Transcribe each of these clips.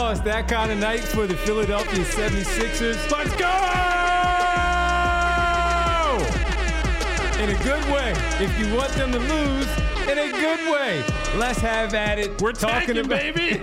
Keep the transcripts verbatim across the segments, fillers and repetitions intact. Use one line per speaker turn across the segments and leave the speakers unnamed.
Oh, it's that kind of night for the Philadelphia seventy-sixers. Let's go! In a good way. If you want them to lose, in a good way. Let's have at it.
We're talking
talking
about
baby.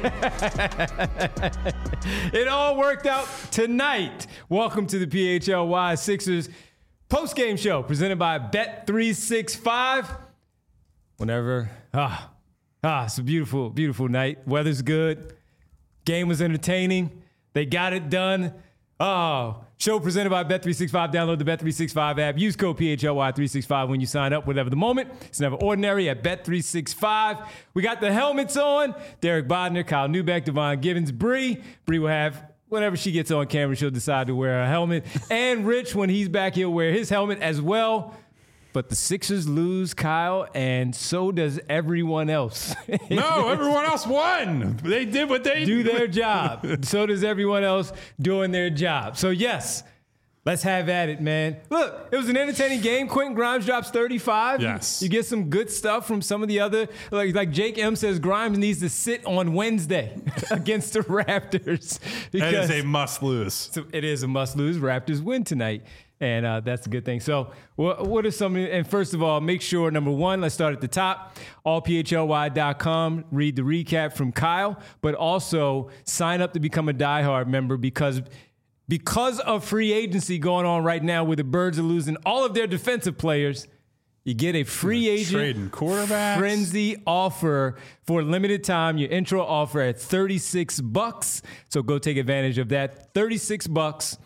It all worked out tonight. Welcome to the P H L Y Sixers post-game show presented by Bet three sixty-five. Whenever, ah, ah, it's a beautiful, beautiful night. Weather's good. Game was entertaining. They got it done. Oh, show presented by Bet three sixty-five. Download the Bet three sixty-five app. Use code P H L Y three sixty-five when you sign up, whatever the moment. It's never ordinary at Bet three sixty-five. We got the helmets on. Derek Bodner, Kyle Newbeck, Devon Givens, Bree. Bree will have, whenever she gets on camera, she'll decide to wear a helmet. And Rich, when he's back, he'll wear his helmet as well. But the Sixers lose, Kyle, and so does everyone else.
No, everyone else won. They did what they
do their job. So does everyone else doing their job. So, yes, let's have at it, man. Look, it was an entertaining game. Quentin Grimes drops thirty-five.
Yes.
You, you get some good stuff from some of the other, like, like Jake M says, Grimes needs to sit on Wednesday against the Raptors.
That is a must lose.
So it is a must lose. Raptors win tonight. And uh, that's a good thing. So what, what are some, and first of all, make sure, number one, let's start at the top, all P H L Y dot com, read the recap from Kyle, but also sign up to become a diehard member because because of free agency going on right now where the Birds are losing all of their defensive players, you get a free agent
trading quarterbacks.
Frenzy offer for a limited time. Your intro offer at thirty-six bucks. So go take advantage of that. thirty-six bucks.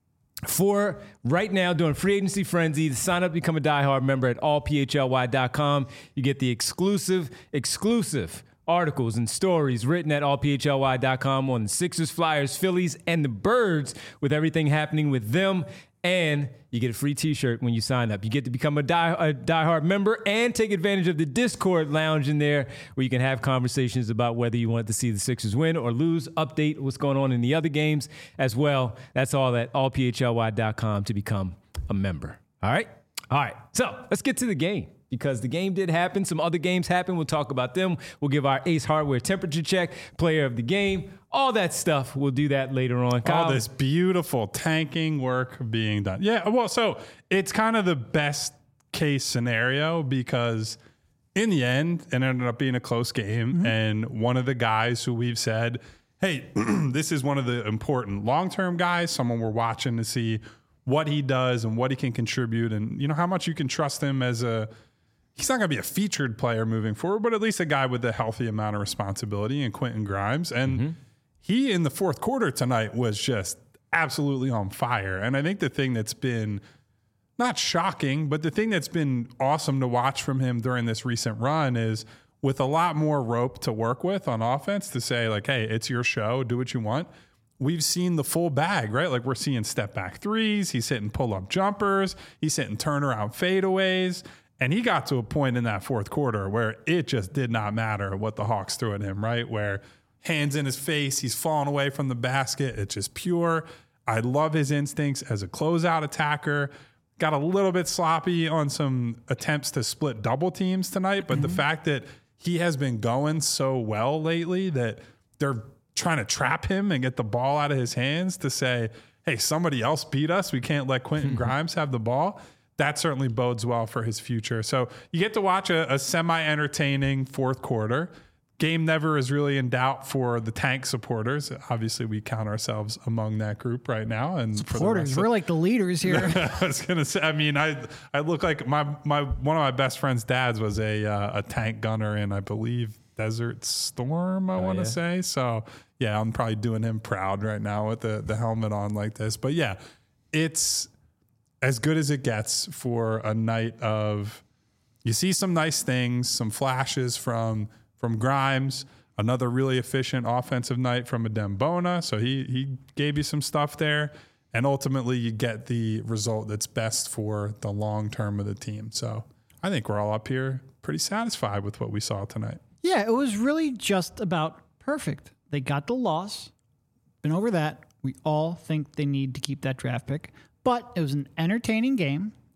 For right now, doing free agency frenzy, to sign up to become a diehard member at all P H L Y dot com. You get the exclusive, exclusive articles and stories written at all P H L Y dot com on the Sixers, Flyers, Phillies, and the Birds with everything happening with them. And you get a free t-shirt when you sign up. You get to become a, die, a diehard member and take advantage of the Discord lounge in there where you can have conversations about whether you want to see the Sixers win or lose, update what's going on in the other games as well. That's all at all P H L Y dot com to become a member. All right? All right. So let's get to the game. Because the game did happen. Some other games happened. We'll talk about them. We'll give our Ace Hardware temperature check, player of the game, all that stuff. We'll do that later on. Kyle?
All this beautiful tanking work being done. Yeah, well, so it's kind of the best case scenario because in the end, it ended up being a close game. Mm-hmm. And one of the guys who we've said, hey, this is one of the important long-term guys, someone we're watching to see what he does and what he can contribute and, you know, how much you can trust him as a he's not going to be a featured player moving forward, but at least a guy with a healthy amount of responsibility in Quentin Grimes. And mm-hmm. he, in the fourth quarter tonight, was just absolutely on fire. And I think the thing that's been not shocking, but the thing that's been awesome to watch from him during this recent run is with a lot more rope to work with on offense to say, like, hey, it's your show, do what you want. We've seen the full bag, right? Like we're seeing step back threes. He's hitting pull-up jumpers. He's hitting turnaround fadeaways. And he got to a point in that fourth quarter where it just did not matter what the Hawks threw at him, right? Where hands in his face, he's falling away from the basket. It's just pure. I love his instincts as a closeout attacker. Got a little bit sloppy on some attempts to split double teams tonight, but mm-hmm. the fact that he has been going so well lately that they're trying to trap him and get the ball out of his hands to say, hey, somebody else beat us. We can't let Quentin Grimes have the ball. That certainly bodes well for his future. So you get to watch a, a semi-entertaining fourth quarter. Game never is really in doubt for the Tank supporters. Obviously, we count ourselves among that group right now. And
supporters,
for the
we're like the leaders here.
I was gonna say. I mean, I I look like my my one of my best friend's dads was a uh, a tank gunner in, I believe, Desert Storm. I oh, want to yeah. say. So yeah, I'm probably doing him proud right now with the the helmet on like this. But yeah, it's as good as it gets for a night of, you see some nice things, some flashes from from Grimes, another really efficient offensive night from Adem Bona. So he he gave you some stuff there. And ultimately you get the result that's best for the long term of the team. So I think we're all up here pretty satisfied with what we saw tonight.
Yeah, it was really just about perfect. They got the loss. Been over that. We all think they need to keep that draft pick. But it was an entertaining game.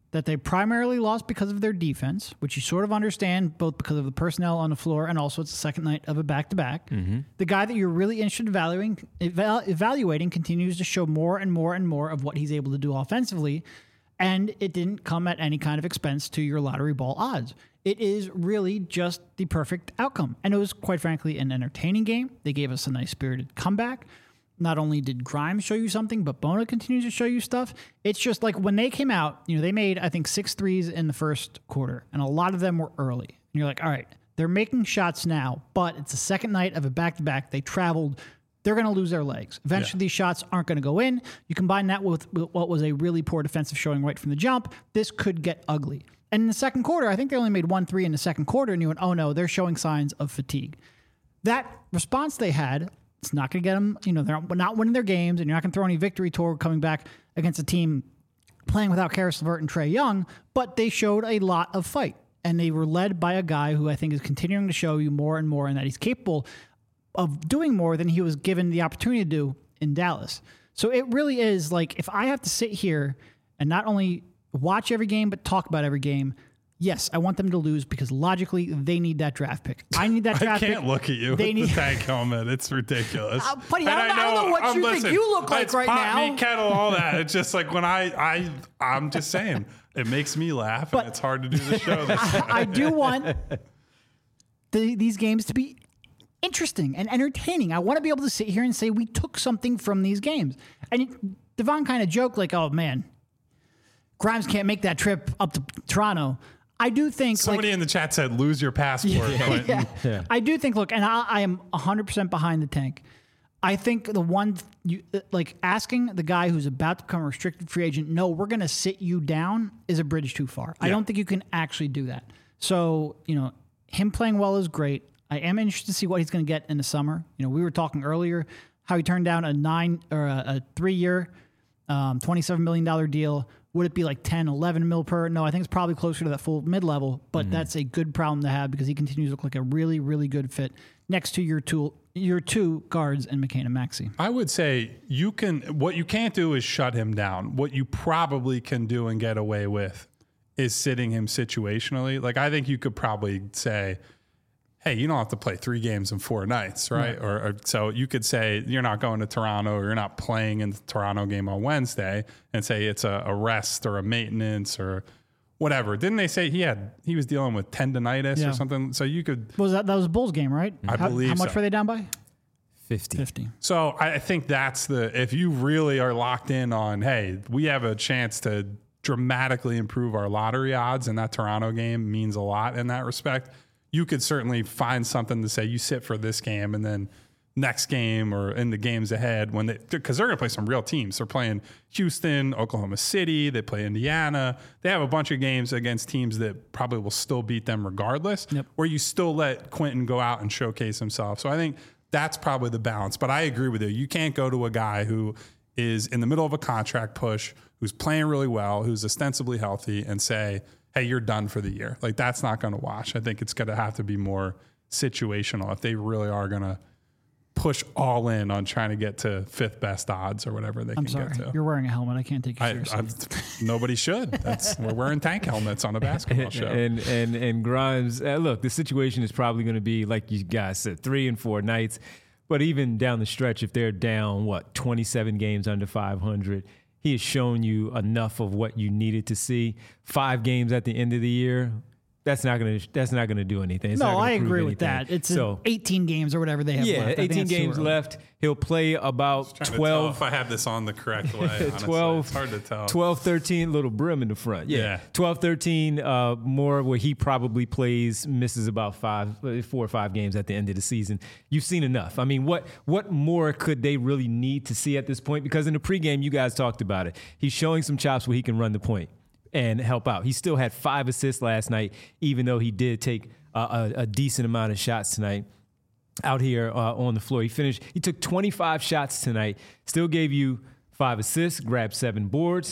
that they primarily lost because of their defense, which you sort of understand, both because of the personnel on the floor and also it's the second night of a back-to-back. Mm-hmm. The guy that you're really interested in evaluating, eval- evaluating continues to show more and more and more of what he's able to do offensively, and it didn't come at any kind of expense to your lottery ball odds. It is really just the perfect outcome. And it was, quite frankly, an entertaining game. They gave us a nice spirited comeback. Not only did Grimes show you something, but Bona continues to show you stuff. It's just like when they came out, you know, they made, I think, six threes in the first quarter, and a lot of them were early. And you're like, all right, they're making shots now, but it's the second night of a back-to-back. They traveled. They're going to lose their legs. Eventually, yeah. these shots aren't going to go in. You combine that with, with what was a really poor defensive showing right from the jump, this could get ugly. And in the second quarter, I think they only made one three in the second quarter, and you went, oh, no, they're showing signs of fatigue. That response they had, it's not going to get them, you know, they're not winning their games, and you're not going to throw any victory tour coming back against a team playing without Karis LeVert and Trae Young, but they showed a lot of fight. And they were led by a guy who I think is continuing to show you more and more and that he's capable of doing more than he was given the opportunity to do in Dallas. So it really is like, if I have to sit here and not only watch every game, but talk about every game, yes, I want them to lose because logically they need that draft pick. I need that draft pick.
I can't pick. Look at you
they
with
need
the tank helmet. It's ridiculous.
Uh, buddy, I don't, I, know, I don't know what um, you listen, think you look like
it's
right
pot,
now.
Meat, kettle, all that. It's just like when I, I, I'm just saying, it makes me laugh, but and it's hard to do the show this
I, I do want the, these games to be interesting and entertaining. I want to be able to sit here and say we took something from these games. And it, Devon kind of joked like, oh, man, Grimes can't make that trip up to Toronto. I do think
somebody
like,
in the chat said, lose your passport,
yeah,
Quentin.
Yeah.
Yeah.
I do think, look, and I, I am one hundred percent behind the tank. I think the one, you, like asking the guy who's about to become a restricted free agent, no, we're going to sit you down is a bridge too far. Yeah. I don't think you can actually do that. So, you know, him playing well is great. I am interested to see what he's going to get in the summer. You know, we were talking earlier how he turned down a nine or a, a three year, um, twenty-seven million dollars deal. Would it be like ten, eleven mil per? No, I think it's probably closer to that full mid-level, but mm-hmm. that's a good problem to have because he continues to look like a really, really good fit next to your two, your two guards and McCain and Maxey.
I would say you can, what you can't do is shut him down. What you probably can do and get away with is sitting him situationally. Like, I think you could probably say, hey, you don't have to play three games in four nights, right? right. Or, or so you could say you're not going to Toronto or you're not playing in the Toronto game on Wednesday and say it's a, a rest or a maintenance or whatever. Didn't they say he had he was dealing with tendonitis yeah. or something? So you could.
Was that that was the Bulls game, right?
I
how,
believe.
How much
so.
were they down by?
fifty.
fifty.
So I think that's the if you really are locked in on, hey, we have a chance to dramatically improve our lottery odds, and that Toronto game means a lot in that respect. You could certainly find something to say you sit for this game and then next game or in the games ahead when they, because they're going to play some real teams. They're playing Houston, Oklahoma City. They play Indiana. They have a bunch of games against teams that probably will still beat them regardless,
yep.
where you still let Quentin go out and showcase himself. So I think that's probably the balance. But I agree with you. You can't go to a guy who is in the middle of a contract push, who's playing really well, who's ostensibly healthy, and say, hey, you're done for the year. Like, that's not going to wash. I think it's going to have to be more situational if they really are going to push all in on trying to get to fifth best odds or whatever they
I'm
can
sorry.
get to.
You're wearing a helmet. I can't take you
I,
seriously.
I, nobody should. That's we're wearing tank helmets on a basketball show.
And and and Grimes, uh, look, the situation is probably going to be like you guys said, three and four nights. But even down the stretch, if they're down what twenty-seven games under five hundred. He has shown you enough of what you needed to see. Five games at the end of the year, that's not gonna that's not gonna do anything. It's
no,
not gonna
I agree
anything.
with that. It's
so,
eighteen games or whatever they have
yeah,
left.
Yeah, eighteen games left. He'll play about twelve.
If I have this on the correct way, honestly.
twelve,
it's hard to tell.
twelve, thirteen, little brim in the front. Yeah,
yeah.
twelve, thirteen uh, more where he probably plays, misses about five, four or five games at the end of the season. You've seen enough. I mean, what what more could they really need to see at this point? Because in the pregame, you guys talked about it. He's showing some chops where he can run the point and help out. He still had five assists last night, even though he did take a, a, a decent amount of shots tonight out here uh, on the floor. He finished, he took twenty-five shots tonight, still gave you five assists, grabbed seven boards.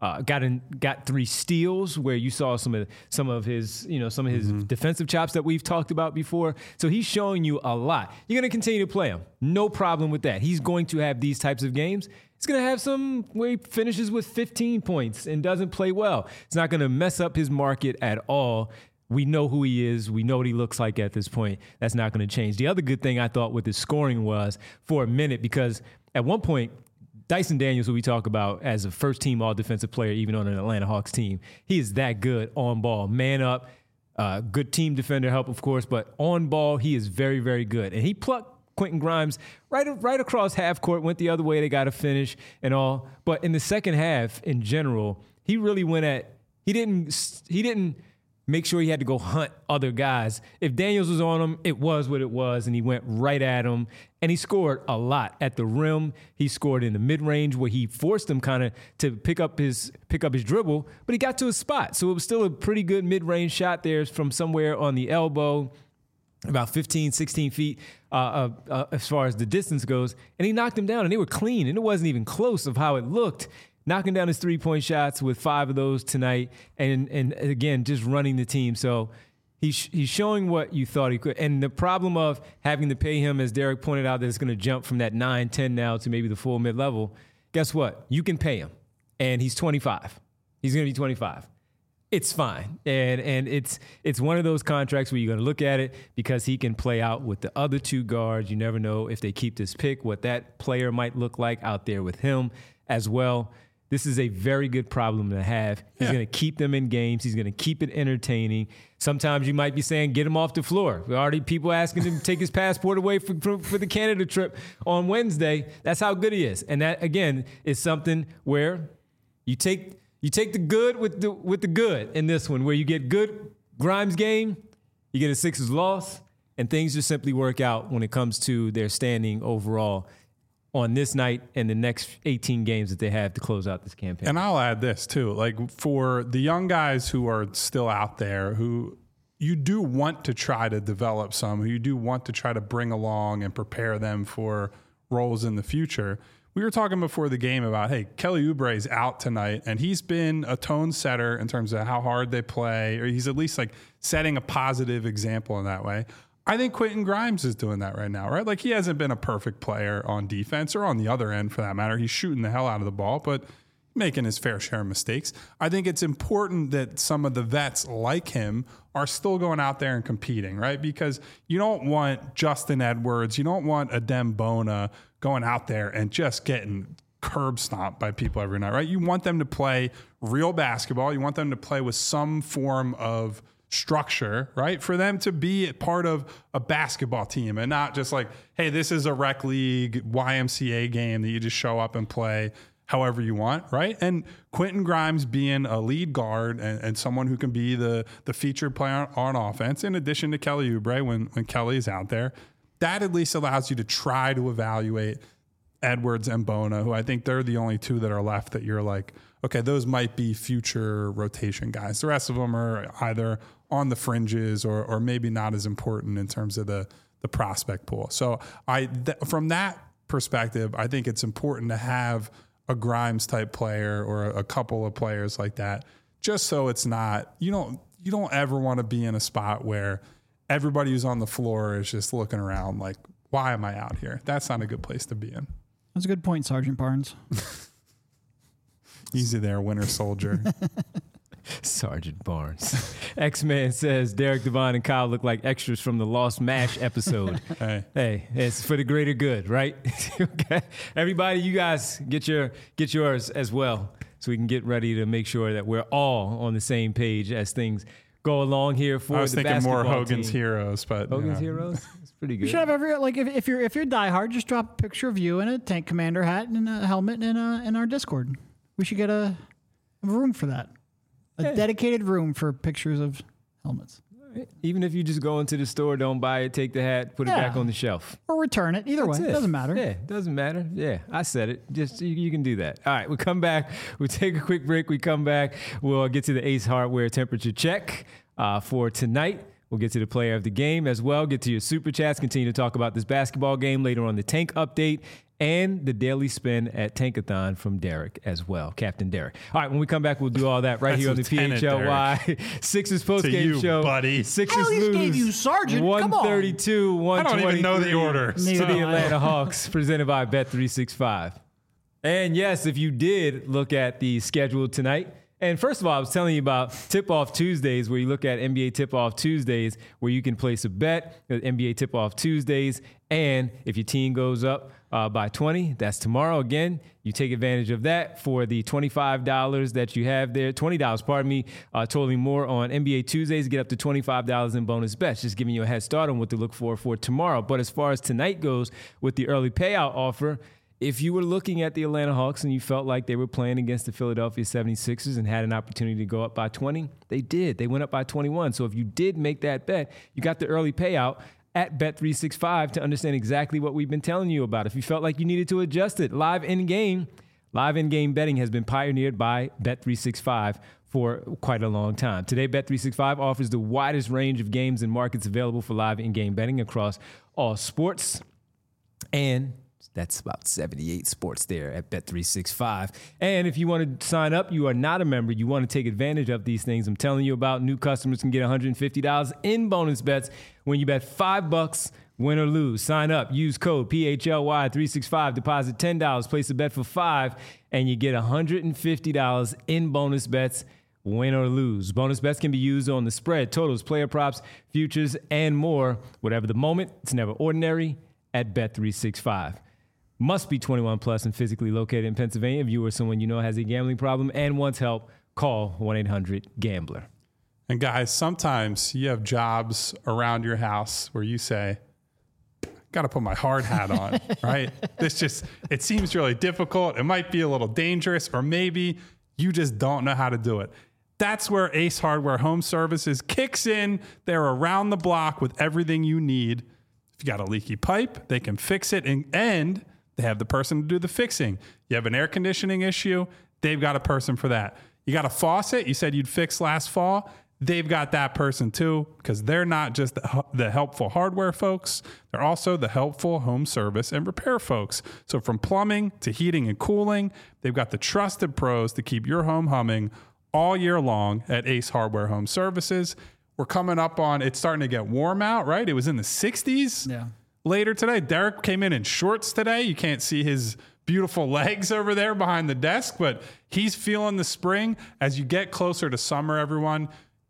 Uh, got in, got three steals where you saw some of some of his, you know, some of his mm-hmm. defensive chops that we've talked about before. So he's showing you a lot. You're going to continue to play him. No problem with that. He's going to have these types of games. He's going to have some where he finishes with fifteen points and doesn't play well. It's not going to mess up his market at all. We know who he is. We know what he looks like at this point. That's not going to change. The other good thing I thought with his scoring was for a minute, because at one point, Dyson Daniels, who we talk about as a first-team all-defensive player, even on an Atlanta Hawks team, he is that good on ball. Man up, uh, good team defender help, of course, but on ball, he is very, very good. And he plucked Quentin Grimes right, right across half court, went the other way, they got to finish and all. But in the second half, in general, he really went at – he didn't he didn't – make sure he had to go hunt other guys. If Daniels was on him, it was what it was, and he went right at him. And he scored a lot at the rim. He scored in the mid-range where he forced him kind of to pick up his pick up his dribble, but he got to a spot. So it was still a pretty good mid-range shot there from somewhere on the elbow, about fifteen, sixteen feet uh, uh, uh, as far as the distance goes. And he knocked him down, and they were clean, and it wasn't even close of how it looked. Knocking down his three-point shots with five of those tonight, and and again, just running the team. So he's he's showing what you thought he could. And the problem of having to pay him, as Derek pointed out, that it's going to jump from that nine, ten now to maybe the full mid-level. Guess what? You can pay him, and he's twenty-five. He's going to be twenty-five. It's fine, and and it's it's one of those contracts where you're going to look at it because he can play out with the other two guards. You never know if they keep this pick, what that player might look like out there with him as well. This is a very good problem to have. He's yeah. going to keep them in games. He's going to keep it entertaining. Sometimes you might be saying, get him off the floor. There are already people asking him to take his passport away for, for, for the Canada trip on Wednesday. That's how good he is. And that, again, is something where you take you take the good with the with the good in this one, where you get good Grimes game, you get a Sixers loss, and things just simply work out when it comes to their standing overall on this night and the next eighteen games that they have to close out this campaign.
And I'll add this too, like for the young guys who are still out there, who you do want to try to develop some, who you do want to try to bring along and prepare them for roles in the future. We were talking before the game about, hey, Kelly Oubre is out tonight, and he's been a tone setter in terms of how hard they play, or he's at least like setting a positive example in that way. I think Quentin Grimes is doing that right now, right? Like, he hasn't been a perfect player on defense, or on the other end for that matter. He's shooting the hell out of the ball, but making his fair share of mistakes. I think it's important that some of the vets like him are still going out there and competing, right? Because you don't want Justin Edwards, you don't want Adem Bona going out there and just getting curb stomped by people every night, right? You want them to play real basketball. You want them to play with some form of structure, right? For them to be part of a basketball team and not just like, hey, this is a rec league Y M C A game that you just show up and play however you want, right? And Quentin Grimes being a lead guard and, and someone who can be the the featured player on, on offense, in addition to Kelly Oubre when, when Kelly's out there, that at least allows you to try to evaluate Edwards and Bona, who I think they're the only two that are left that you're like, okay, those might be future rotation guys. The rest of them are either on the fringes or or maybe not as important in terms of the the prospect pool. So I th- from that perspective, I think it's important to have a Grimes type player or a couple of players like that, just so it's not, you don't you don't ever want to be in a spot where everybody who's on the floor is just looking around like, why am I out here? That's not a good place to be in.
That's a good point, Sergeant Barnes.
Easy there, Winter Soldier.
Sergeant Barnes. X-Man says Derek Devon and Kyle look like extras from the Lost MASH episode.
Hey.
Hey, it's for the greater good, right? Okay. Everybody, you guys get your get yours as well, so we can get ready to make sure that we're all on the same page as things go along here for the
I was
the
thinking more Hogan's
team.
Heroes, but
Hogan's
you know.
Heroes? It's pretty good.
You should have every, like, if, if you're if you're diehard, just drop a picture of you in a Tank Commander hat and a helmet in, a, in our Discord. We should get a, a room for that. A yeah. dedicated room for pictures of helmets.
Right. Even if you just go into the store, don't buy it, take the hat, put
yeah.
it back on the shelf.
Or return it. Either
That's
way.
It.
it doesn't matter.
Yeah, it doesn't matter. Yeah, I said it. Just you, you can do that. All right, we come back. We take a quick break. We come back. We'll get to the Ace Hardware temperature check uh, for tonight. We'll get to the player of the game as well, get to your super chats, continue to talk about this basketball game later on the Tank update, and the daily spin at Tankathon from Derek as well, Captain Derek. All right, when we come back, we'll do all that right here on the P H L Y Sixers postgame show.
Buddy.
Sixers
I at least
lose
gave you Sergeant. Come on.
one thirty-two, one twenty-three.
I don't even know the order.
To
Neither
the
do I.
Atlanta Hawks, presented by Bet three sixty-five. And yes, if you did look at the schedule tonight, and first of all, I was telling you about Tip-Off Tuesdays, where you look at N B A Tip-Off Tuesdays, where you can place a bet at N B A Tip-Off Tuesdays. And if your team goes up uh, by twenty, that's tomorrow. Again, you take advantage of that for the twenty-five dollars that you have there. twenty dollars, pardon me, uh, totally more on N B A Tuesdays. Get up to twenty-five dollars in bonus bets, just giving you a head start on what to look for for tomorrow. But as far as tonight goes with the early payout offer, if you were looking at the Atlanta Hawks and you felt like they were playing against the Philadelphia seventy-sixers and had an opportunity to go up by twenty, they did. They went up by twenty-one. So if you did make that bet, you got the early payout at Bet three sixty-five to understand exactly what we've been telling you about. If you felt like you needed to adjust it, live in-game, live in-game betting has been pioneered by Bet three sixty-five for quite a long time. Today, Bet three sixty-five offers the widest range of games and markets available for live in-game betting across all sports. And that's about seventy-eight sports there at Bet three sixty-five. And if you want to sign up, you are not a member, you want to take advantage of these things I'm telling you about, new customers can get one hundred fifty dollars in bonus bets when you bet five bucks, win or lose. Sign up, use code P H L Y three sixty-five, deposit ten dollars, place a bet for five, and you get one hundred fifty dollars in bonus bets, win or lose. Bonus bets can be used on the spread, totals, player props, futures, and more. Whatever the moment, it's never ordinary at Bet three sixty-five. Must be twenty-one plus and physically located in Pennsylvania. If you or someone you know has a gambling problem and wants help, call one eight hundred gambler.
And guys, sometimes you have jobs around your house where you say, got to put my hard hat on, right? This just, it seems really difficult. It might be a little dangerous, or maybe you just don't know how to do it. That's where Ace Hardware Home Services kicks in. They're around the block with everything you need. If you got a leaky pipe, they can fix it, and, and they have the person to do the fixing. You have an air conditioning issue, they've got a person for that. You got a faucet you said you'd fix last fall, they've got that person too, because they're not just the, the helpful hardware folks, they're also the helpful home service and repair folks. So from plumbing to heating and cooling, they've got the trusted pros to keep your home humming all year long at Ace Hardware Home Services. We're coming up on, it's starting to get warm out, right? It was in the sixties.
Yeah.
Later today. Derek came in in shorts today. You can't see his beautiful legs over there behind the desk, but he's feeling the spring. As you get closer to summer, everyone,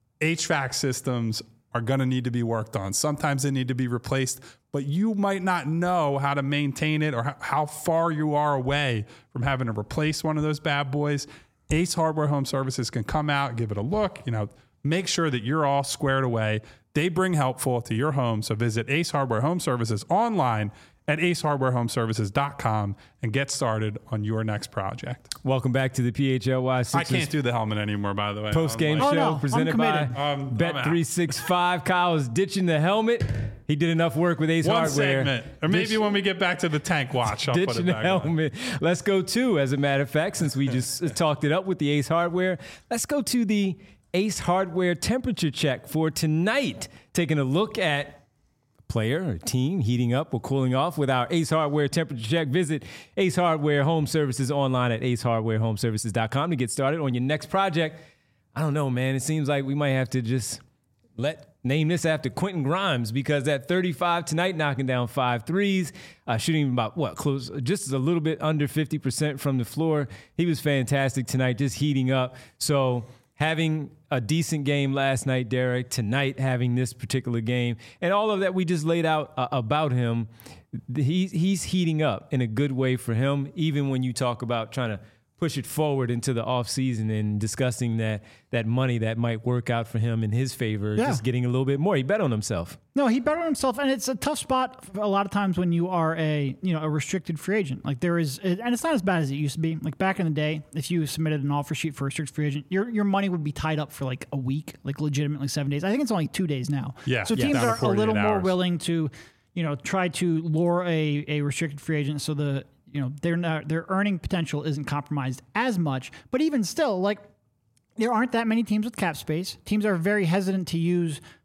H V A C systems are going to need to be worked on. Sometimes they need to be replaced, but you might not know how to maintain it or how far you are away from having to replace one of those bad boys. Ace Hardware Home Services can come out, give it a look, you know, make sure that you're all squared away. They bring helpful to your home. So visit Ace Hardware Home Services online at ace hardware home services dot com and get started on your next project.
Welcome back to the P H L Y Sixers.
I can't do the helmet anymore, by the way.
Post-game
I'm
show
like,
Oh, no,
presented
I'm
by
committed.
Um, I'm
Bet
out.
three sixty-five. Kyle is ditching the helmet. He did enough work with Ace
One
Hardware.
segment. Or maybe
Ditch-
when we get back to the tank watch, I'll put
ditching
it
the
back on.
helmet. Let's go to, as a matter of fact, since we just talked it up with the Ace Hardware, let's go to the Ace Hardware temperature check for tonight. Taking a look at player or team heating up or cooling off with our Ace Hardware temperature check. Visit Ace Hardware Home Services online at ace hardware home services dot com to get started on your next project. I don't know, man. It seems like we might have to just let name this after Quentin Grimes, because at thirty-five tonight, knocking down five threes, uh, shooting about what close, just a little bit under fifty percent from the floor. He was fantastic tonight, just heating up. So having a decent game last night, Derek, tonight having this particular game, and all of that we just laid out uh, about him, he's, he's heating up in a good way for him, even when you talk about trying to push it forward into the offseason and discussing that that money that might work out for him in his favor,
Yeah.
just getting a little bit more. He bet on himself.
No, he bet on himself, and it's a tough spot a lot of times when you are a you know a restricted free agent. Like there is, and it's not as bad as it used to be. Like back in the day, if you submitted an offer sheet for a restricted free agent, your your money would be tied up for like a week, like legitimately seven days. I think it's only two days now.
Yeah,
So
yeah,
teams
down to
are a little
forty-eight
more
hours.
willing to, you know, try to lure a a restricted free agent so the you know their not, their earning potential isn't compromised as much. But even still, like there aren't that many teams with cap space. Teams are very hesitant to use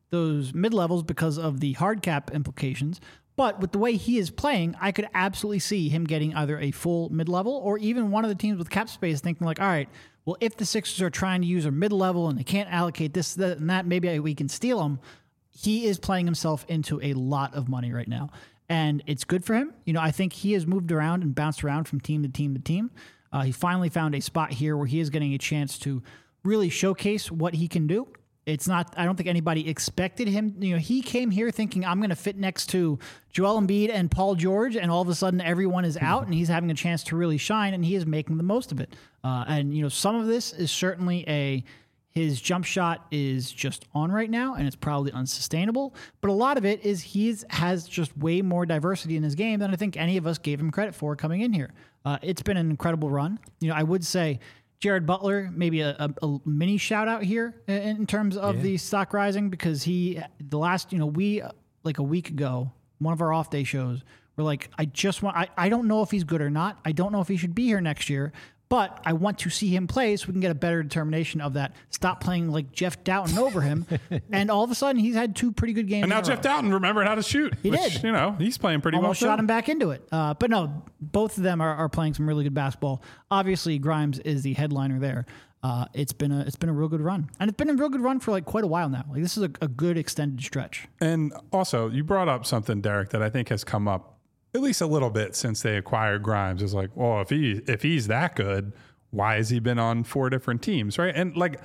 those mid levels because of the hard cap implications. But with the way he is playing, I could absolutely see him getting either a full mid level or even one of the teams with cap space thinking like, all right, well, if the Sixers are trying to use a mid level and they can't allocate this, that, and that, maybe we can steal him. He is playing himself into a lot of money right now. And it's good for him. You know, I think he has moved around and bounced around from team to team to team. Uh, he finally found a spot here where he is getting a chance to really showcase what he can do. It's not, I don't think anybody expected him. You know, he came here thinking, I'm going to fit next to Joel Embiid and Paul George, and all of a sudden everyone is out and he's having a chance to really shine, and he is making the most of it. Uh, and, you know, some of this is certainly a, his jump shot is just on right now, and it's probably unsustainable. But a lot of it is he has just way more diversity in his game than I think any of us gave him credit for coming in here. Uh, it's been an incredible run. You know, I would say Jared Butler, maybe a, a, a mini shout out here in, in terms of yeah. the stock rising, because he, the last, you know, we, like a week ago, one of our off day shows, we're like, I just want, I, I don't know if he's good or not. I don't know if he should be here next year, but I want to see him play so we can get a better determination of that. Stop playing like Jeff Doughton over him. And all of a sudden, he's had two pretty good games.
And now Jeff
row.
Doughton remembered how to shoot.
He
which,
did.
You know, he's playing pretty
Almost
well.
shot
too.
him back into it. Uh, but no, both of them are, are playing some really good basketball. Obviously, Grimes is the headliner there. Uh, it's been a it's been a real good run, and it's been a real good run for like quite a while now. Like this is a, a good extended stretch.
And also, you brought up something, Derek, that I think has come up at least a little bit since they acquired Grimes. It's like, well, if he if he's that good, why has he been on four different teams, right? And like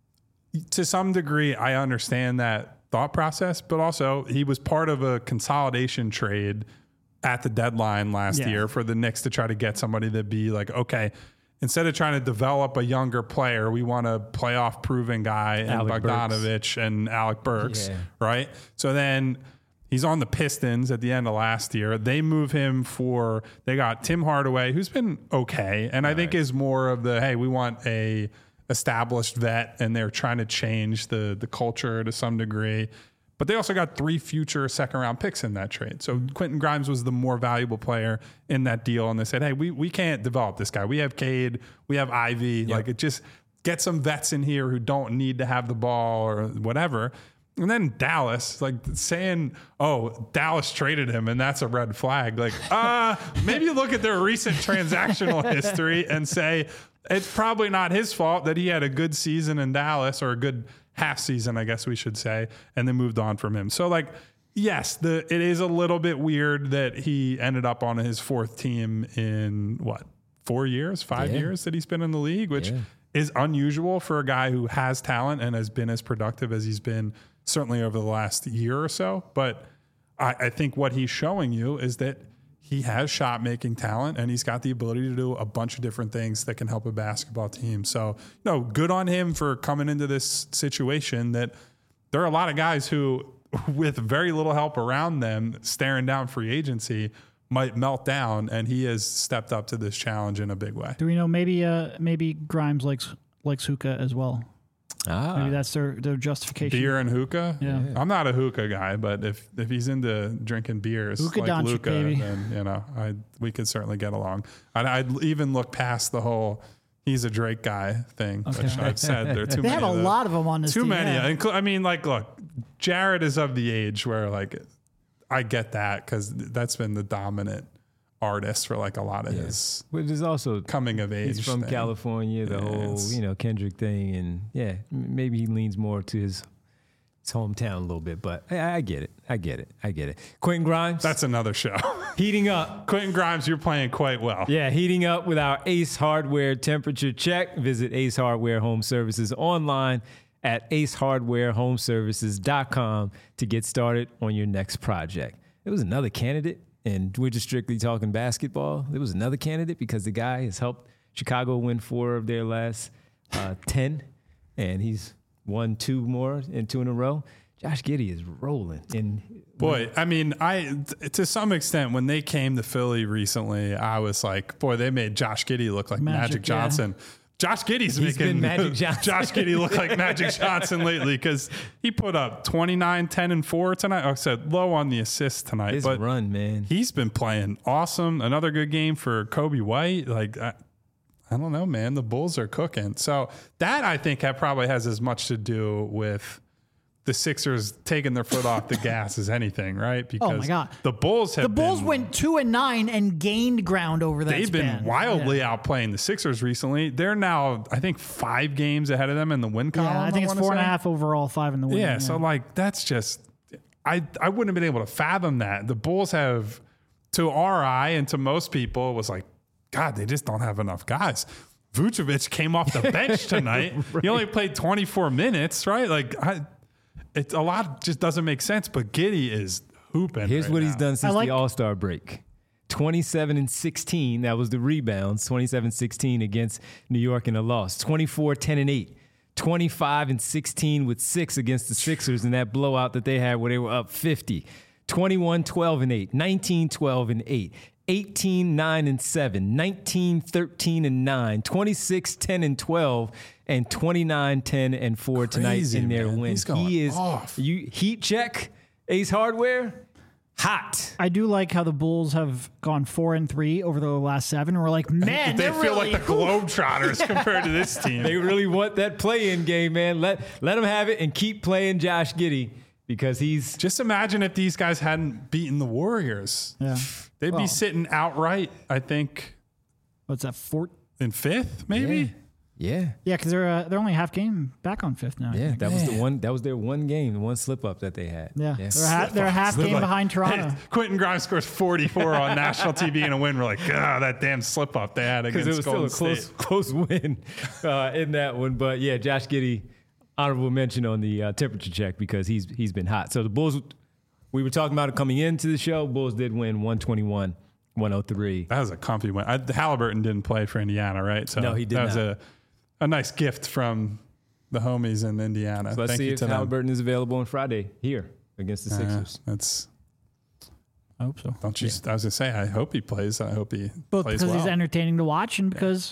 to some degree, I understand that thought process, but also he was part of a consolidation trade at the deadline last
Yeah.
year for the Knicks to try to get somebody to be like, okay, instead of trying to develop a younger player, we want a playoff proven guy in
Alec
Bogdanovich
Burks.
and Alec Burks,
Yeah.
right? So then he's on the Pistons at the end of last year. They move him for, they got Tim Hardaway, who's been okay. And I think is more of the, hey, we want a established vet, and they're trying to change the the culture to some degree. But they also got three future second round picks in that trade. So Quentin Grimes was the more valuable player in that deal. And they said, hey, we, we can't develop this guy. We have Cade, we have Ivy. Yep. Like it just get some vets in here who don't need to have the ball or whatever. And then Dallas, like saying, oh, Dallas traded him and that's a red flag. Like, uh, maybe look at their recent transactional history and say, it's probably not his fault that he had a good season in Dallas, or a good half season, I guess we should say, and then moved on from him. So like, yes, the it is a little bit weird that he ended up on his fourth team in what, four years, five
Yeah.
years that he's been in the league, which
Yeah.
is unusual for a guy who has talent and has been as productive as he's been certainly over the last year or so. But I, I think what he's showing you is that he has shot making talent, and he's got the ability to do a bunch of different things that can help a basketball team. So, no, good on him for coming into this situation that there are a lot of guys who, with very little help around them, staring down free agency, might melt down, and he has stepped up to this challenge in a big way.
Do we know maybe uh, maybe Grimes likes likes hookah as well?
Ah.
Maybe that's their, their justification.
Beer and hookah?
Yeah.
I'm not a hookah guy, but if, if he's into drinking beers
Hookah
like
Doncic,
Luka,
baby.
then, you know, I we could certainly get along. I'd, I'd even look past the whole he's a Drake guy thing,
Okay.
which I've said. There are too
They
many
have a
of those.
lot of them on this
Too
team.
many.
yeah.
Inclu- I mean, like, look, Jared is of the age where, like, I get that because that's been the dominant artist for, like, a lot of
Yeah.
his
But there's also
coming of age
he's from
thing.
California, the
Yeah,
whole
it's-
you know Kendrick thing, and yeah, m- maybe he leans more to his his hometown a little bit. But I, I get it, I get it, I get it. Quentin Grimes,
That's another show.
heating up.
Quentin Grimes, you're playing quite well.
Yeah, heating up with our Ace Hardware temperature check. Visit Ace Hardware Home Services online at ace hardware home services dot com to get started on your next project. There was another candidate, and we're just strictly talking basketball. There was another candidate because the guy has helped Chicago win four of their last uh, ten, and he's won two more and two in a row. Josh Giddey is rolling. And
Boy, I mean, I to some extent when they came to Philly recently, I was like, boy, they made Josh Giddey look like Magic,
Magic, yeah.
Johnson. Josh Giddey's
He's
making
been Magic Johnson.
Josh Giddey look like Magic Johnson lately because he put up twenty-nine, ten, and four tonight. Like I said, low on the assists tonight,
his
but
run, man.
he's been playing awesome. Another good game for Kobe White. Like, I, I don't know, man. The Bulls are cooking. So that I think that probably has as much to do with the Sixers taking their foot off the gas as anything, right? Because
Oh my God.
the Bulls have
The Bulls
been,
went two and nine and gained ground over that
they've
span.
been wildly
Yeah.
outplaying the Sixers recently. They're now, I think, five games ahead of them in the win column.
Yeah, I think it's
wanna
four and a
say.
half overall, five in the win.
Yeah, so like that's just I I wouldn't have been able to fathom that. The Bulls have, to our eye and to most people, it was like, God, they just don't have enough guys. Vucevic came off the bench tonight. right. He only played twenty-four minutes, right? Like I, it's a lot just doesn't make sense. But Giddey is hooping.
Here's
right
what
now.
he's done since
like-
the All-Star break. twenty-seven and sixteen, that was the rebounds. twenty-seven sixteen against New York in a loss. twenty-four ten and eight. twenty-five and sixteen with six against the Sixers in that blowout that they had where they were up fifty. twenty-one twelve and eight. nineteen twelve and eight. eighteen nine and seven. nineteen thirteen and nine. twenty-six ten and twelve. And twenty-nine ten and four tonight
Crazy,
in their
man.
win.
He's going
He is
off.
you heat check Ace Hardware. Hot.
I do like how the Bulls have gone four and three over the last seven. We're like, man,
They
they're
feel
really
like the Globetrotters compared to this team.
They really want that play-in game, man. Let let them have it and keep playing Josh Giddey because he's
Just imagine if these guys hadn't beaten the Warriors.
Yeah.
They'd
Well.
be sitting outright, I think,
What's that? Four?
in fifth, maybe.
yeah.
Yeah, because they're uh, they're only a half game back on fifth now. I
Yeah,
think.
that was the one. That was their one game, the one slip up that they had.
Yeah, they're, a half, they're a half game
Like,
behind Toronto.
hey, Quentin Grimes scores forty-four on national T V in a win. We're like, God, that damn slip up they had
Because
against
it was still
Golden
a
State.
close close win uh, in that one. But yeah, Josh Giddey, honorable mention on the uh, temperature check because he's he's been hot. So the Bulls, we were talking about it coming into the show. Bulls did win one twenty-one one oh three.
That was a comfy win. I, Halliburton didn't play for Indiana, right? So
No, he did
That was
not.
a a nice gift from the homies in Indiana.
So let's
Thank
see
you
if
to them.
Halliburton is available on Friday here against the
Uh,
Sixers.
that's
I hope so.
don't you? I was gonna say, I hope he plays. I hope he
Both
plays
because
well.
he's entertaining to watch and because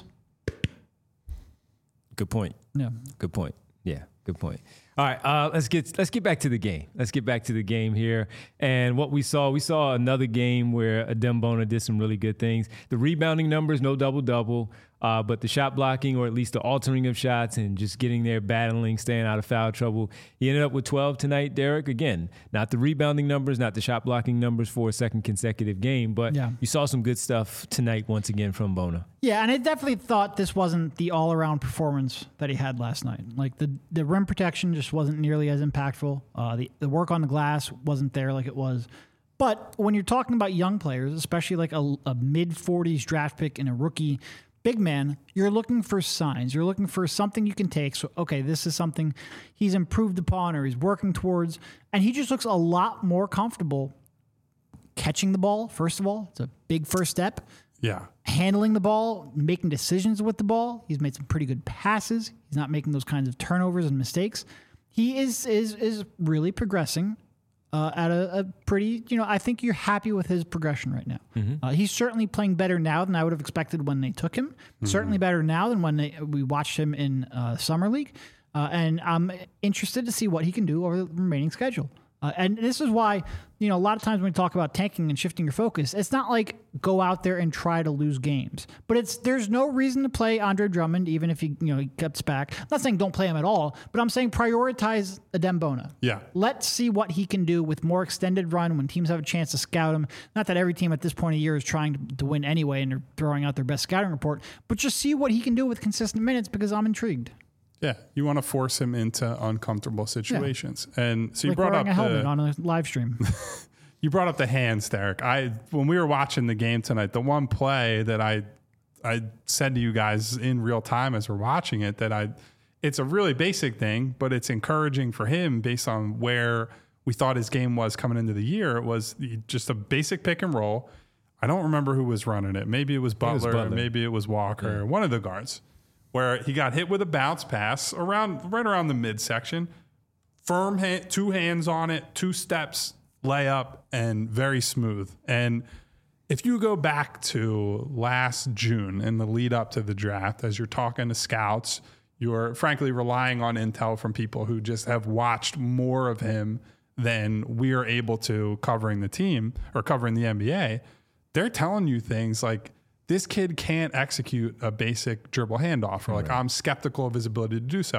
Good point.
yeah.
Good point. Yeah, good point. All right, uh, let's get let's get back to the game. Let's get back to the game here. And what we saw, we saw another game where Adem Bona did some really good things. The rebounding numbers, no double-double, uh, but the shot blocking or at least the altering of shots and just getting there, battling, staying out of foul trouble. He ended up with twelve tonight, Derek. Again, not the rebounding numbers, not the shot blocking numbers for a second consecutive game, but
Yeah.
you saw some good stuff tonight once again from Bona.
Yeah, and I definitely thought this wasn't the all-around performance that he had last night. Like the, the rim protection just wasn't nearly as impactful. Uh, the the work on the glass wasn't there like it was. But when you're talking about young players, especially like a, a mid forties draft pick and a rookie big man, you're looking for signs. You're looking for something you can take. So, okay, this is something he's improved upon or he's working towards, and he just looks a lot more comfortable catching the ball. First of all, it's a big first step.
yeah.
Handling the ball, making decisions with the ball. He's made some pretty good passes. He's not making those kinds of turnovers and mistakes. He is is is really progressing uh, at a, a pretty, you know, I think you're happy with his progression right now. Uh, he's certainly playing better now than I would have expected when they took him. Certainly better now than when they, we watched him in uh, Summer League. Uh, and I'm interested to see what he can do over the remaining schedule. Uh, and this is why, you know, a lot of times when we talk about tanking and shifting your focus, it's not like go out there and try to lose games. But it's there's no reason to play Andre Drummond, even if he, you know, he cuts back. I'm not saying don't play him at all, but I'm saying prioritize Adem Bona.
Yeah.
Let's see what he can do with more extended run when teams have a chance to scout him. Not that every team at this point of year is trying to, to win anyway and they're throwing out their best scouting report, but just see what he can do with consistent minutes because I'm intrigued.
Yeah, you want to force him into uncomfortable situations, and so you
Like
brought
wearing
up
a helmet
the
on a live stream.
you brought up the hands, Derek. I when we were watching the game tonight, the one play that I I said to you guys in real time as we're watching it that I it's a really basic thing, but it's encouraging for him based on where we thought his game was coming into the year. It was just a basic pick and roll. I don't remember who was running it. Maybe it was Butler,
it was Butler.
maybe it was Walker, one of the guards. Where he got hit with a bounce pass around right around the midsection, firm hand, two hands on it, two steps, layup, and very smooth. And if you go back to last June in the lead up to the draft, as you're talking to scouts, you're frankly relying on intel from people who just have watched more of him than we are able to covering the team or covering the N B A. They're telling you things like, this kid can't execute a basic dribble handoff, or like, I'm skeptical of his ability to do so.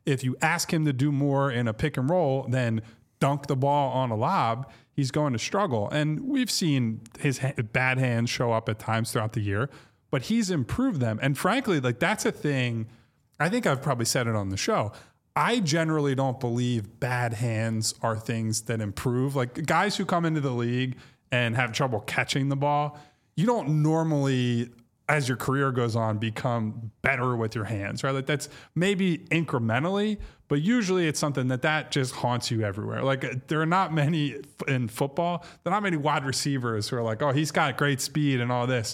if you ask him to do more in a pick and roll than dunk the ball on a lob, he's going to struggle. And we've seen his ha- bad hands show up at times throughout the year, but he's improved them. And frankly, like that's a thing, I think I've probably said it on the show. I generally don't believe bad hands are things that improve. Like guys who come into the league and have trouble catching the ball, you don't normally, as your career goes on, become better with your hands, right? Like that's maybe incrementally, but usually it's something that that just haunts you everywhere. Like there are not many in football, there are not many wide receivers who are like, oh, he's got great speed and all this.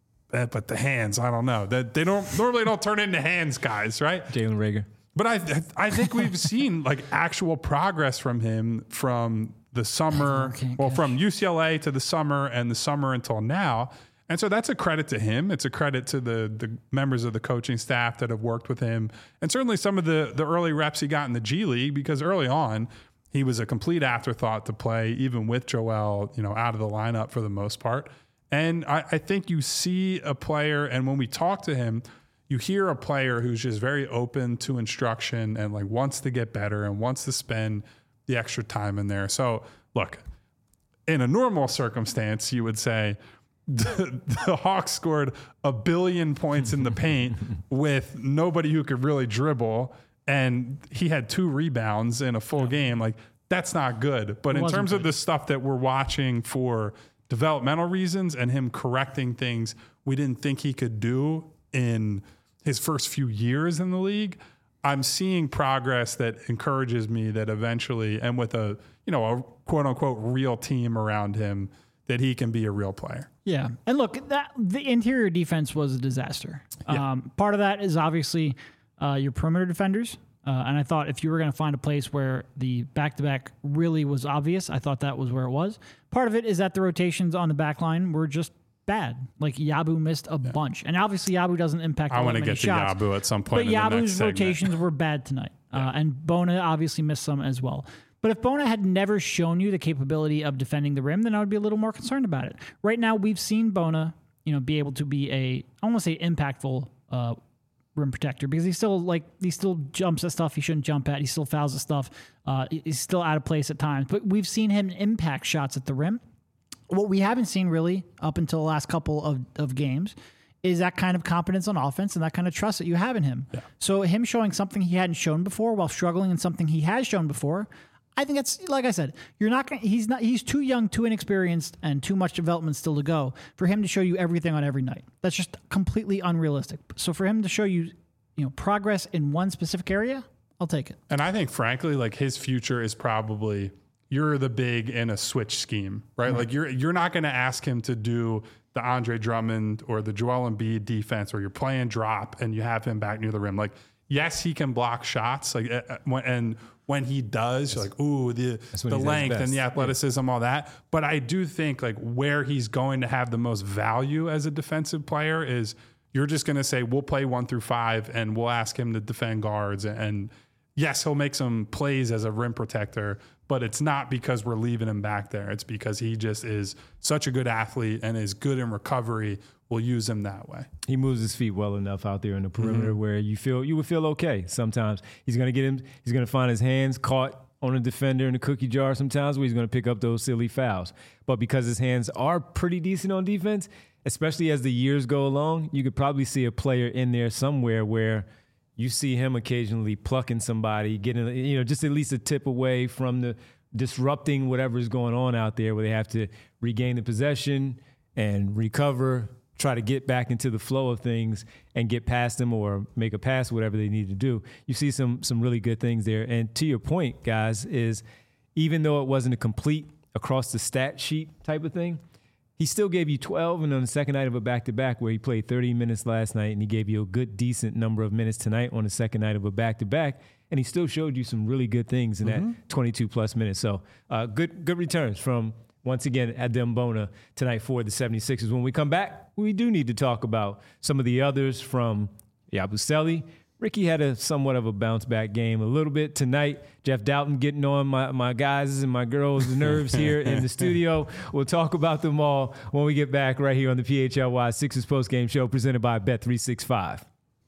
But the hands, I don't know. That they don't normally don't turn into hands guys, right?
Jalen Reagor.
But I I think we've seen like actual progress from him from the summer, well, from U C L A to the summer and the summer until now. And so that's a credit to him. It's a credit to the the members of the coaching staff that have worked with him. And certainly some of the the early reps he got in the G League, because early on he was a complete afterthought to play, even with Joel, you know, out of the lineup for the most part. And I, I think you see a player, and when we talk to him, you hear a player who's just very open to instruction and like wants to get better and wants to spend the extra time in there. So look, in a normal circumstance, you would say the, the Hawks scored a billion points in the paint with nobody who could really dribble, and he had two rebounds in a full game. Like that's not good. But in terms of the stuff that we're watching for developmental reasons and him correcting things we didn't think he could do in his first few years in the league, I'm seeing progress that encourages me that eventually, and with a, you know, a quote unquote real team around him, that he can be a real player.
Yeah. And look, that the interior defense was a disaster.
Yeah.
Um, part of that is obviously uh, your perimeter defenders. Uh, and I thought if you were going to find a place where the back-to-back really was obvious, I thought that was where it was. Part of it is that the rotations on the back line were just bad. Like Yabu missed a yeah. bunch. And obviously Yabu doesn't impact
I
want to
get
shots,
to Yabu at some point
but
in
Yabu's
the next
rotations
segment.
were bad tonight.
Yeah.
Uh, and Bona obviously missed some as well. But if Bona had never shown you the capability of defending the rim, then I would be a little more concerned about it. Right now, we've seen Bona, you know, be able to be a, I don't want to say impactful uh, rim protector, because he still like he still jumps at stuff he shouldn't jump at. He still fouls at stuff. Uh, he's still out of place at times. But we've seen him impact shots at the rim. What we haven't seen really up until the last couple of, of games is that kind of competence on offense and that kind of trust that you have in him.
Yeah.
So him showing something he hadn't shown before while struggling in something he has shown before, I think that's, like I said, you're not going he's not, he's too young, too inexperienced, and too much development still to go for him to show you everything on every night. That's just completely unrealistic. So for him to show you, you know, progress in one specific area, I'll take it.
And I think, frankly, like his future is probably you're the big in a switch scheme, right? right. Like you're you're not going to ask him to do the Andre Drummond or the Joel Embiid defense, where you're playing drop and you have him back near the rim. Like, yes, he can block shots. Like, uh, when, and when he does, you're like, ooh, the the length and the athleticism, yeah. all that. But I do think like where he's going to have the most value as a defensive player is you're just going to say, we'll play one through five and we'll ask him to defend guards. And yes, he'll make some plays as a rim protector, but it's not because we're leaving him back there. It's because he just is such a good athlete and is good in recovery. We'll use him that way.
He moves his feet well enough out there in the perimeter mm-hmm. where you feel you would feel okay. Sometimes he's going to get him. He's going to find his hands caught on a defender in the cookie jar. Sometimes where he's going to pick up those silly fouls. But because his hands are pretty decent on defense, especially as the years go along, you could probably see a player in there somewhere where you see him occasionally plucking somebody, getting, you know, just at least a tip away from the disrupting whatever's going on out there, where they have to regain the possession and recover, try to get back into the flow of things and get past them or make a pass, whatever they need to do. You see some some really good things there. And to your point, guys, is even though it wasn't a complete across the stat sheet type of thing, he still gave you twelve, and on the second night of a back-to-back where he played thirty minutes last night, and he gave you a good, decent number of minutes tonight on the second night of a back-to-back, and he still showed you some really good things in mm-hmm. that twenty-two-plus minutes. So uh, good good returns from, once again, Adem Bona tonight for the seventy-sixers. When we come back, we do need to talk about some of the others from Yabusele. Ricky had a somewhat of a bounce-back game a little bit tonight. Jeff Doughton getting on my, my guys' and my girls' nerves here in the studio. We'll talk about them all when we get back right here on the P H L Y Sixers postgame show presented by Bet three sixty-five.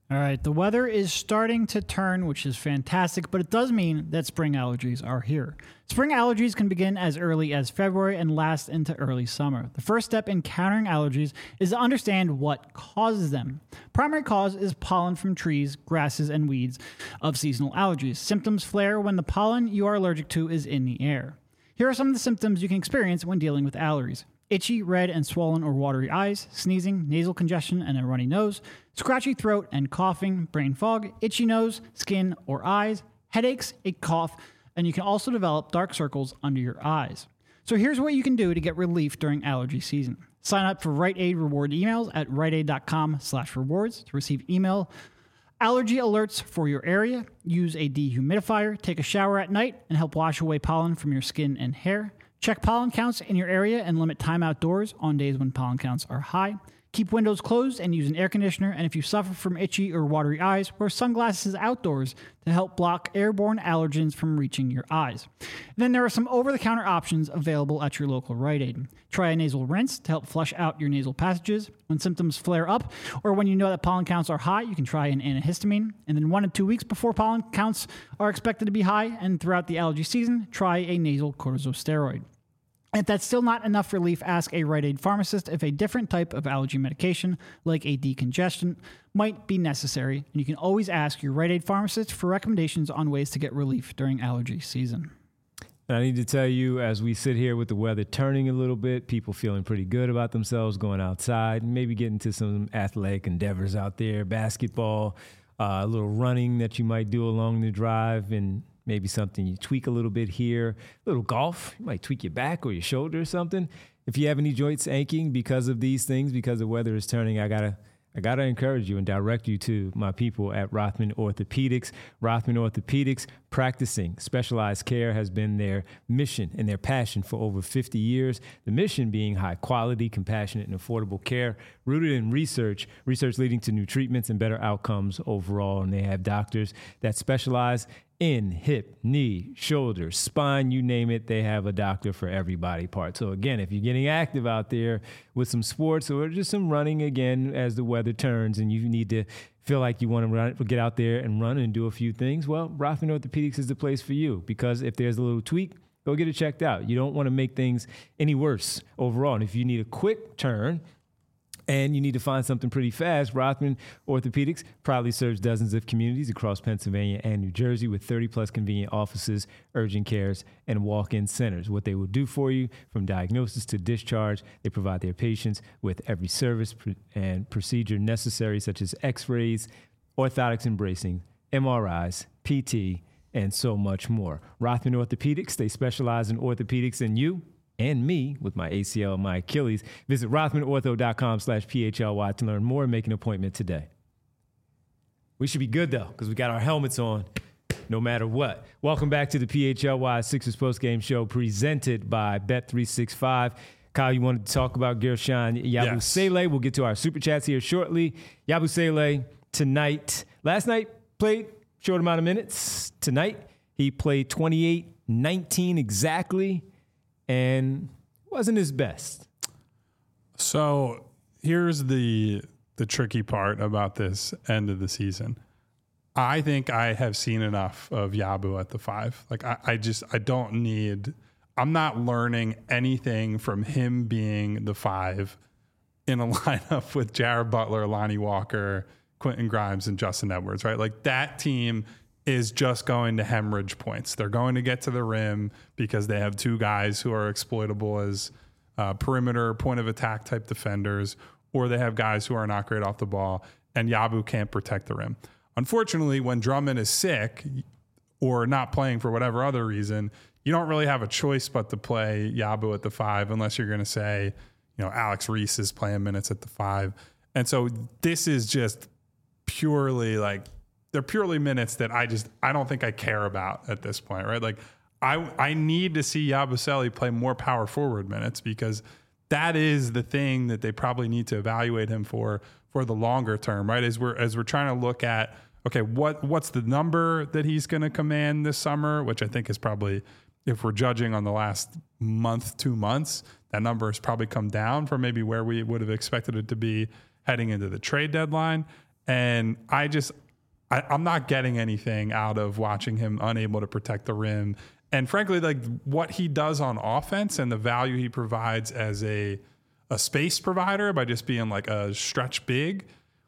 All right, the weather is starting to turn, which is fantastic, but it does mean that spring allergies are here. Spring allergies can begin as early as February and last into early summer. The first step in countering allergies is to understand what causes them. Primary cause is pollen from trees, grasses, and weeds of seasonal allergies. Symptoms flare when the pollen you are allergic to is in the air. Here are some of the symptoms you can experience when dealing with allergies. Itchy, red, and swollen or watery eyes, sneezing, nasal congestion, and a runny nose, scratchy throat and coughing, brain fog, itchy nose, skin or eyes, headaches, a cough, and you can also develop dark circles under your eyes. So here's what you can do to get relief during allergy season. Sign up for Rite Aid reward emails at riteaid.com slash rewards to receive email allergy alerts for your area. Use a dehumidifier, take a shower at night, and help wash away pollen from your skin and hair. Check pollen counts in your area and limit time outdoors on days when pollen counts are high. Keep windows closed and use an air conditioner. And if you suffer from itchy or watery eyes, wear sunglasses outdoors to help block airborne allergens from reaching your eyes. Then there are some over-the-counter options available at your local Rite Aid. Try a nasal rinse to help flush out your nasal passages. When symptoms flare up or when you know that pollen counts are high, you can try an antihistamine. And then one to two weeks before pollen counts are expected to be high and throughout the allergy season, try a nasal corticosteroid. If that's still not enough relief, ask a Rite Aid pharmacist if a different type of allergy medication, like a decongestant, might be necessary. And you can always ask your Rite Aid pharmacist for recommendations on ways to get relief during allergy season.
And I need to tell you, as we sit here with the weather turning a little bit, people feeling pretty good about themselves, going outside, maybe getting to some athletic endeavors out there, basketball, uh, a little running that you might do along the drive, and maybe something you tweak a little bit here. A little golf, you might tweak your back or your shoulder or something. If you have any joints aching because of these things, because the weather is turning, I gotta I gotta encourage you and direct you to my people at Rothman Orthopedics. Rothman Orthopedics, practicing specialized care has been their mission and their passion for over fifty years. The mission being high quality, compassionate, and affordable care rooted in research, research leading to new treatments and better outcomes overall. And they have doctors that specialize in hip, knee, shoulder, spine, you name it, they have a doctor for every body part. So again, if you're getting active out there with some sports or just some running again as the weather turns and you need to feel like you want to run, get out there and run and do a few things, well, Rothman Orthopedics is the place for you, because if there's a little tweak, go get it checked out. You don't want to make things any worse overall. And if you need a quick turn and you need to find something pretty fast, Rothman Orthopedics proudly serves dozens of communities across Pennsylvania and New Jersey with thirty plus convenient offices, urgent cares, and walk-in centers. What they will do for you from diagnosis to discharge, they provide their patients with every service and procedure necessary, such as x-rays, orthotics and bracing, M R Is, P T, and so much more. Rothman Orthopedics, they specialize in orthopedics, and you and me with my A C L and my Achilles. Visit rothmanortho.com slash PHLY to learn more and make an appointment today. We should be good, though, because we got our helmets on no matter what. Welcome back to the P H L Y Sixers Postgame Show presented by Bet three sixty-five. Kyle, you wanted to talk about Guerschon Yabusele. Yes. We'll get to our super chats here shortly. Yabusele tonight. Last night played short amount of minutes. Tonight he played twenty-eight nineteen exactly, and wasn't his best.
So here's the the tricky part about this end of the season. I think I have seen enough of Yabu at the five. Like I, I just I don't need. I'm not learning anything from him being the five in a lineup with Jared Butler, Lonnie Walker, Quentin Grimes, and Justin Edwards. Right, like that team is just going to hemorrhage points. They're going to get to the rim because they have two guys who are exploitable as uh, perimeter, point of attack type defenders, or they have guys who are not great off the ball, and Yabu can't protect the rim. Unfortunately, when Drummond is sick or not playing for whatever other reason, you don't really have a choice but to play Yabu at the five unless you're going to say, you know, Alex Reese is playing minutes at the five. And so this is just purely like, they're purely minutes that I just, I don't think I care about at this point, right? Like I I need to see Yabusele play more power forward minutes because that is the thing that they probably need to evaluate him for, for the longer term, right? As we're, as we're trying to look at, okay, what, what's the number that he's going to command this summer, which I think is probably, if we're judging on the last month, two months, that number has probably come down from maybe where we would have expected it to be heading into the trade deadline. And I just, I, I'm not getting anything out of watching him unable to protect the rim. And frankly, like what he does on offense and the value he provides as a, a space provider by just being like a stretch big,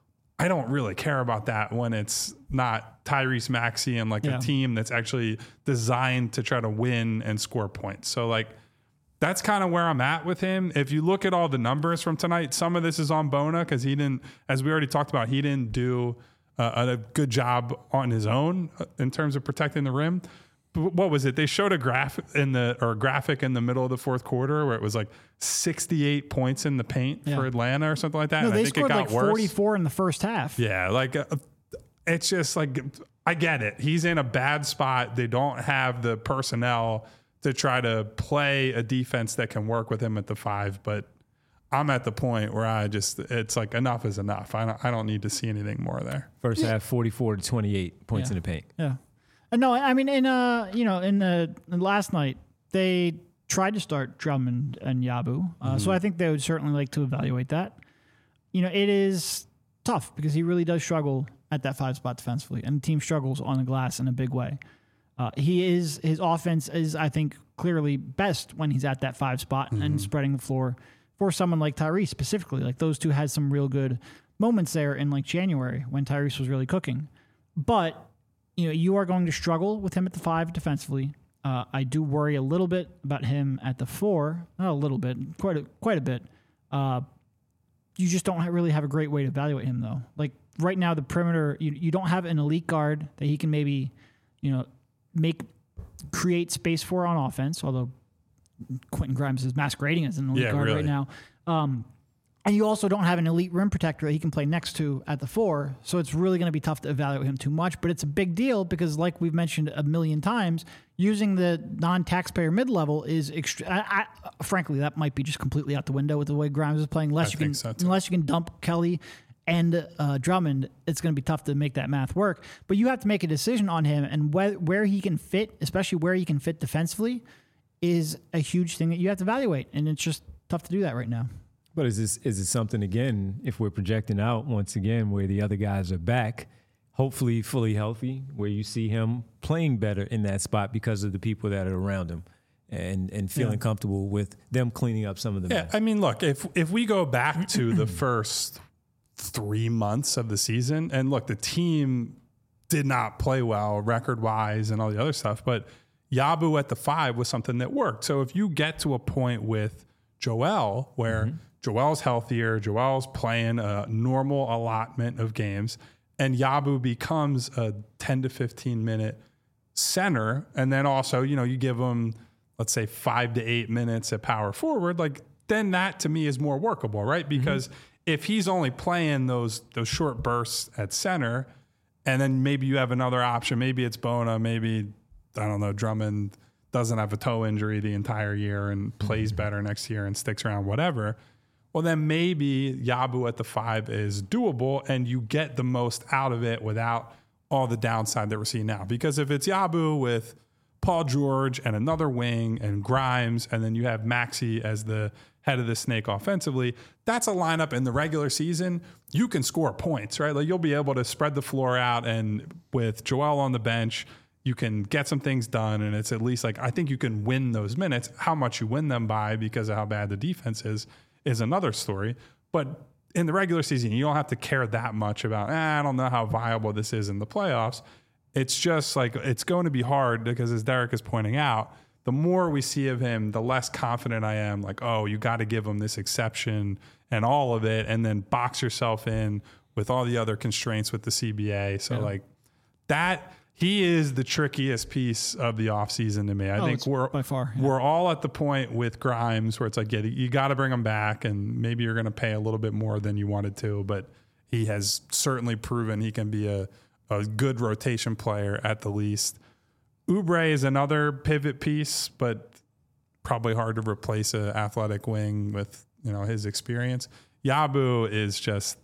I don't really care about that when it's not Tyrese Maxey and like yeah. a team that's actually designed to try to win and score points. So like, that's kind of where I'm at with him. If you look at all the numbers from tonight, some of this is on Bona because he didn't, as we already talked about, he didn't do uh, a good job on his own in terms of protecting the rim. But what was it? They showed a graph in the or a graphic in the middle of the fourth quarter where it was like sixty-eight points in the paint yeah. for Atlanta or something like that.
No,
and
they
I think
scored
it got
like
worse.
forty-four in the first half.
Yeah, like uh, it's just like I get it. He's in a bad spot. They don't have the personnel to try to play a defense that can work with him at the five. But I'm at the point where I just, it's like enough is enough. I don't, I don't need to see anything more there.
First half, forty-four to twenty-eight points
yeah.
in the paint.
Yeah. Uh, no, I mean, in, uh, you know, in the in last night, they tried to start Drummond and Yabu. Uh, mm-hmm. So I think they would certainly like to evaluate that. You know, it is tough because he really does struggle at that five spot defensively, and the team struggles on the glass in a big way. Uh, he is his offense is, I think, clearly best when he's at that five spot mm-hmm. and spreading the floor for someone like Tyrese specifically. Like those two had some real good moments there in like January when Tyrese was really cooking. But you know, you are going to struggle with him at the five defensively. Uh, I do worry a little bit about him at the four, not a little bit, quite a, quite a bit. Uh, you just don't really have a great way to evaluate him though. Like right now, the perimeter, you you don't have an elite guard that he can maybe, you know. make create space for on offense, although Quentin Grimes is masquerading as an elite
yeah,
guard
really.
right now. Um, and you also don't have an elite rim protector that he can play next to at the four, so it's really going to be tough to evaluate him too much. But it's a big deal because, like we've mentioned a million times, using the non-taxpayer mid-level is extre- I, I, frankly, that might be just completely out the window with the way Grimes is playing. Unless
I
you
think
can,
so too.
unless you can dump Kelly and uh, Drummond, it's going to be tough to make that math work. But you have to make a decision on him, and where, where he can fit, especially where he can fit defensively, is a huge thing that you have to evaluate. And it's just tough to do that right now.
But is this is it something, again, if we're projecting out once again where the other guys are back, hopefully fully healthy, where you see him playing better in that spot because of the people that are around him and, and feeling yeah. comfortable with them cleaning up some of the
Yeah,
mess.
I mean, look, if if we go back to the first three months of the season, and look, the team did not play well record-wise and all the other stuff, but Yabu at the five was something that worked. So if you get to a point with Joel where mm-hmm. Joel's healthier, Joel's playing a normal allotment of games, and Yabu becomes a ten to fifteen minute center, and then also, you know, you give him, let's say, five to eight minutes at power forward, like then that to me is more workable, right? Because mm-hmm. if he's only playing those those short bursts at center, and then maybe you have another option, maybe it's Bona, maybe, I don't know, Drummond doesn't have a toe injury the entire year and plays mm-hmm. better next year and sticks around, whatever. Well, then maybe Yabu at the five is doable and you get the most out of it without all the downside that we're seeing now. Because if it's Yabu with Paul George and another wing and Grimes, and then you have Maxey as the head of the snake offensively, that's a lineup in the regular season. You can score points, right? Like you'll be able to spread the floor out, and with Joel on the bench, you can get some things done. And it's at least like, I think you can win those minutes. How much you win them by because of how bad the defense is, is another story. But in the regular season, you don't have to care that much about, eh, I don't know how viable this is in the playoffs. It's just like, it's going to be hard because, as Derek is pointing out, the more we see of him, the less confident I am. Like, oh, you got to give him this exception and all of it, and then box yourself in with all the other constraints with the C B A. So, yeah. like, that, he is the trickiest piece of the offseason to me. I
oh,
think we're
by far, yeah.
we're all at the point with Grimes where it's like, yeah, you got to bring him back, and maybe you're going to pay a little bit more than you wanted to, but he has certainly proven he can be a, a good rotation player at the least. Oubre is another pivot piece, but probably hard to replace an athletic wing with, you know, his experience. Yabu is just,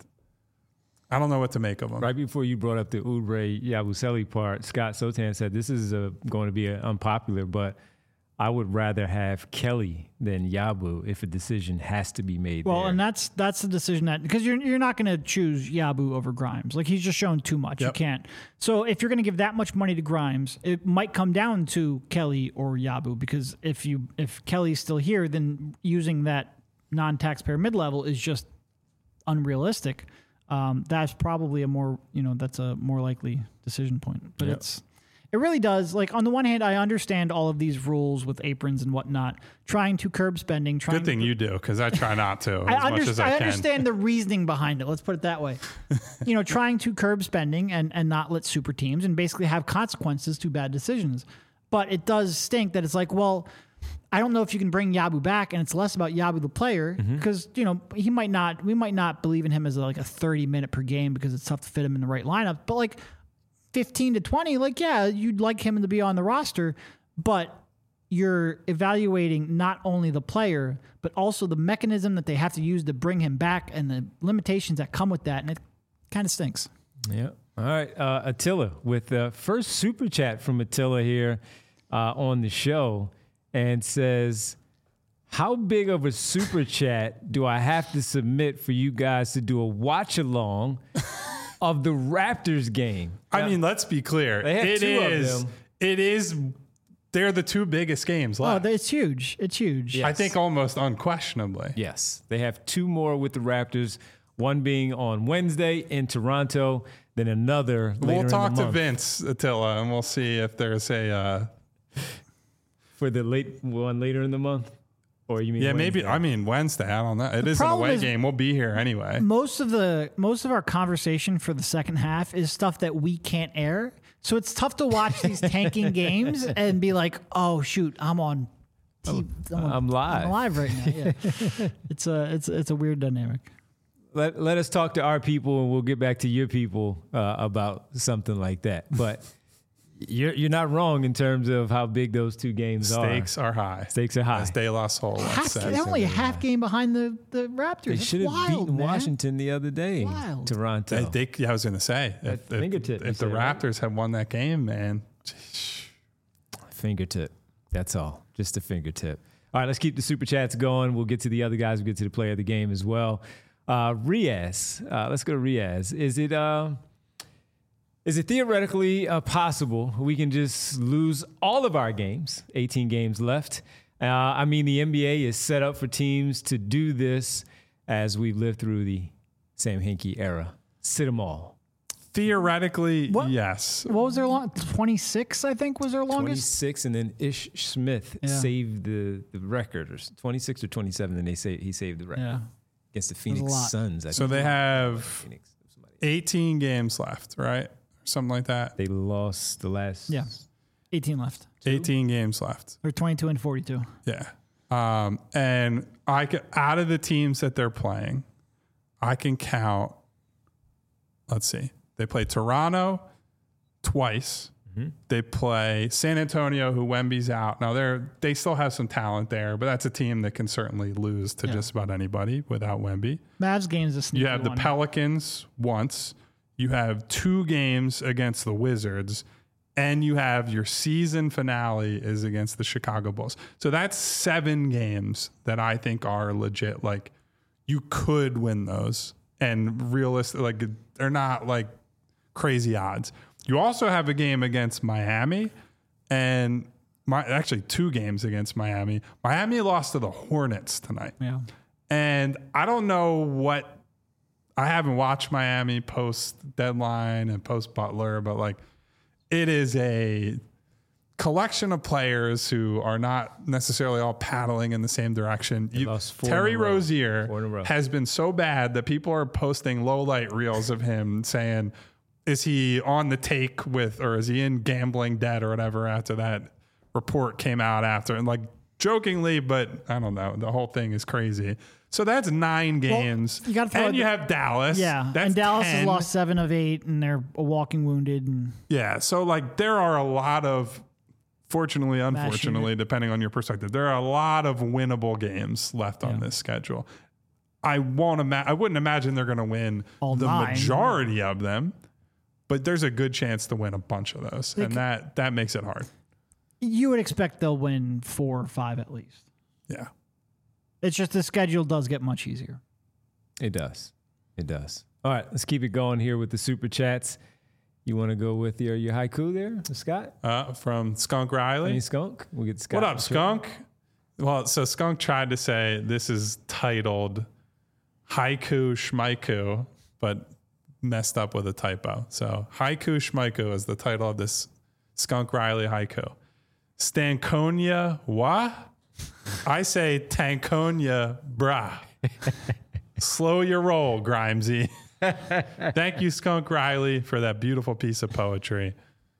I don't know what to make of him.
Right before you brought up the Oubre Yabusele part, Scott Sotan said this is a, going to be a, unpopular, but I would rather have Kelly than Yabu if a decision has to be made.
Well,
there.
and that's that's the decision that because you're you're not going to choose Yabu over Grimes. Like he's just shown too much.
Yep.
You can't. So if you're going to give that much money to Grimes, it might come down to Kelly or Yabu because if you if Kelly's still here, then using that non-taxpayer mid-level is just unrealistic. Um, that's probably a more you know that's a more likely decision point. But
Yep.
it's. It really does. Like on the one hand, I understand all of these rules with aprons and whatnot, trying to curb spending. Trying
Good thing
to,
you do, because I try not to as
I,
much
underst-
as I,
I
can.
understand the reasoning behind it. Let's put it that way. You know, trying to curb spending and, and not let super teams and basically have consequences to bad decisions. But it does stink that it's like, well, I don't know if you can bring Yabu back, and it's less about Yabu the player because you know he might not. We might not believe in him as like a thirty minute per game because it's tough to fit him in the right lineup. But like. fifteen to twenty, like, yeah, you'd like him to be on the roster, but you're evaluating not only the player, but also the mechanism that they have to use to bring him back and the limitations that come with that. And it kind of stinks.
Yeah. All right. Uh, Attila with the first super chat from Attila here uh, on the show and says, how big of a super chat do I have to submit for you guys to do a watch along of the Raptors game?
I
Now,
mean, let's be clear.
They have
It
two of
is.
them.
It is. They're the two biggest games
Oh,
left.
it's huge. It's huge.
Yeah.
I think almost unquestionably.
yes, they have two more with the Raptors, one being on Wednesday in Toronto, then another later
We'll
in
talk
the
to
month
Vince Attila, and we'll see if there's a. Uh,
for the late one later in the month. Or you mean
yeah, maybe.
Wednesday?
I mean, Wednesday. I don't know. It is an
problem
away
is-
game. We'll be here anyway.
Most of the most of our conversation for the second half is stuff that we can't air. So it's tough to watch these tanking games and be like, "Oh shoot, I'm on, T- I'm, on
I'm live.
I'm live right now." Yeah. it's a it's it's a weird dynamic.
Let, let us talk to our people and we'll get back to your people uh, about something like that. But you're you're not wrong in terms of how big those two games
Stakes
are.
are high.
Stakes are high.
As De La Soul once
Half,
said.
they're only a half game behind the, the Raptors.
They
It's
should have
wild,
beaten
man.
Washington the other day.
Wild.
Toronto.
I think. Yeah, I was going to say. If, if,
fingertip, you
if the
said, right?
Raptors had won that game, man.
Fingertip. That's all. Just a fingertip. All right, let's keep the super chats going. We'll get to the other guys. We'll get to the player of the game as well. Uh, Riaz. Uh, let's go to Riaz. Is it uh, is it theoretically uh, possible we can just lose all of our games? eighteen games left. Uh, I mean, the N B A is set up for teams to do this as we live through the Sam Hinkie era. Sit them all.
Theoretically,
What?
yes.
What was their long? twenty-six, I think, was their longest.
twenty-six, and then Ish Smith
Yeah.
saved the, the record, or s- twenty-six or twenty-seven, and they say he saved the record
Yeah.
against the
a
Phoenix
lot.
Suns. I
So
think.
they have
Phoenix, somebody.
eighteen games left, right? Something like that.
They lost the last.
Yeah. eighteen left.
eighteen games left.
Or twenty-two and forty-two.
Yeah. Um, and I can, out of the teams that they're playing, I can count. Let's see. They play Toronto twice.
Mm-hmm.
They play San Antonio, who Wemby's out. Now they're they still have some talent there, but that's a team that can certainly lose to
Yeah.
just about anybody without Wemby.
Mavs game's a sneaky
You have the
one.
Pelicans once. You have two games against the Wizards, and you have your season finale is against the Chicago Bulls. So that's seven games that I think are legit. Like you could win those, and realistic, like they're not like crazy odds. You also have a game against Miami, and my actually two games against Miami. Miami lost to the Hornets tonight.
Yeah.
And I don't know what I haven't watched Miami post deadline and post Butler, but like it is a collection of players who are not necessarily all paddling in the same direction. You,
lost four in
Terry
a row.
Rozier
Four in a row.
has been so bad that people are posting low light reels of him saying, is he on the take with, or is he in gambling debt or whatever after that report came out after? And like jokingly, but I don't know. The whole thing is crazy. So that's nine games.
you gotta throw
and
it-
you have Dallas.
Yeah.
That's
and Dallas
ten.
has lost seven of eight, and they're walking wounded. And
Yeah. So like there are a lot of, fortunately, unfortunately, depending on your perspective, there are a lot of winnable games left on
Yeah.
this schedule. I won't ima- I wouldn't imagine they're going to win
All
the
nine.
majority of them, but there's a good chance to win a bunch of those, and that that makes it hard.
You would expect they'll win four or five at least.
Yeah.
It's just the schedule does get much easier.
It does. It does. All right, let's keep it going here with the super chats. You want to go with your, your haiku there, Scott?
Uh, from Skunk Riley.
Any Skunk? We'll get Scott.
What up, Skunk? Well, so Skunk tried to say this is titled Haiku Schmaiku, but messed up with a typo. So Haiku Schmaiku is the title of this Skunk Riley haiku. Stankonia wa? I say Tankonia brah. Slow your roll, Grimesy. Thank you, Skunk Riley, for that beautiful piece of poetry.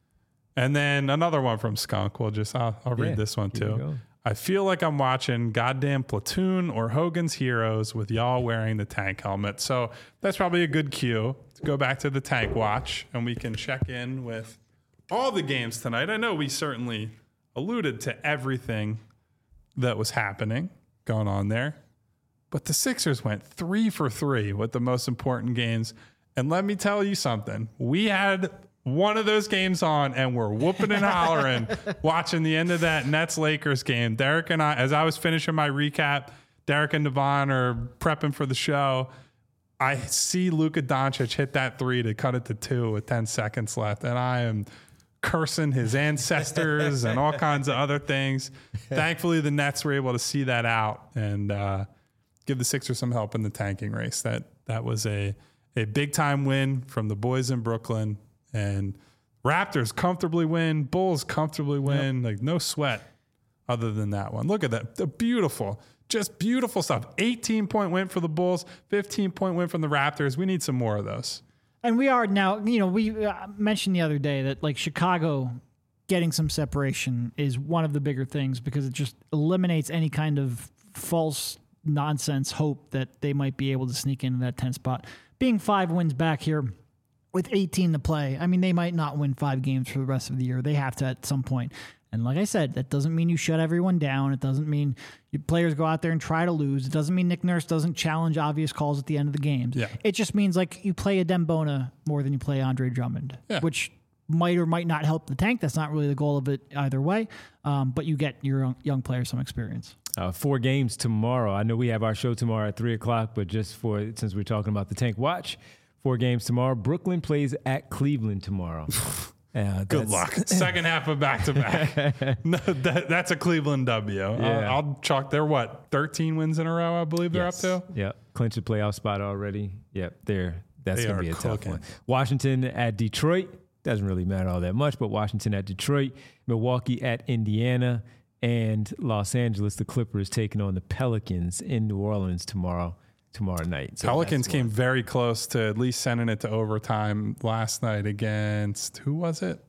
And then another one from Skunk. We'll just, I'll, I'll read
Yeah,
this one
keep it
too.
going.
I feel like I'm watching goddamn Platoon or Hogan's Heroes with y'all wearing the tank helmet. So that's probably a good cue to go back to the tank watch and we can check in with all the games tonight. I know we certainly alluded to everything that was happening going on there, but the Sixers went three for three with the most important games. And let me tell you something. We had one of those games on and we're whooping and hollering watching the end of that Nets-Lakers game. Derek and I, as I was finishing my recap, Derek and Devon are prepping for the show. I see Luka Doncic hit that three to cut it to two with ten seconds left. And I am cursing his ancestors and all kinds of other things. Thankfully, the Nets were able to see that out and uh, give the Sixers some help in the tanking race. That that was a, a big-time win from the boys in Brooklyn. And Raptors comfortably win. Bulls comfortably win. Yep. Like no sweat other than that one. Look at that. The beautiful, just beautiful stuff. eighteen-point win for the Bulls, fifteen-point win from the Raptors. We need some more of those.
And we are now, you know, we uh, mentioned the other day that like Chicago getting some separation is one of the bigger things because it just eliminates any kind of false nonsense hope that they might be able to sneak into that tenth spot. Being five wins back here with eighteen to play, I mean, they might not win five games for the rest of the year. They have to at some point. And like I said, that doesn't mean you shut everyone down. It doesn't mean your players go out there and try to lose. It doesn't mean Nick Nurse doesn't challenge obvious calls at the end of the games.
Yeah.
It just means like you play a Dembona more than you play Andre Drummond,
yeah.
which might or might not help the tank. That's not really the goal of it either way. Um, but you get your young, young players some experience.
Uh, four games tomorrow. I know we have our show tomorrow at three o'clock, but just for since we're talking about the tank watch, four games tomorrow. Brooklyn plays at Cleveland tomorrow. Uh,
Good luck. Second half of back to back. No, that, that's a Cleveland W.
Yeah.
I'll, I'll chalk. They're what, thirteen wins in a row, I believe they're
yes.
up to?
Yep. Clinch a playoff spot already. Yep. They're, that's
They
going to
are
be a
cooking.
tough one. Washington at Detroit. Doesn't really matter all that much, but Washington at Detroit. Milwaukee at Indiana. And Los Angeles, the Clippers taking on the Pelicans in New Orleans tomorrow. tomorrow night. So
Pelicans came very close to at least sending it to overtime last night against, who was it?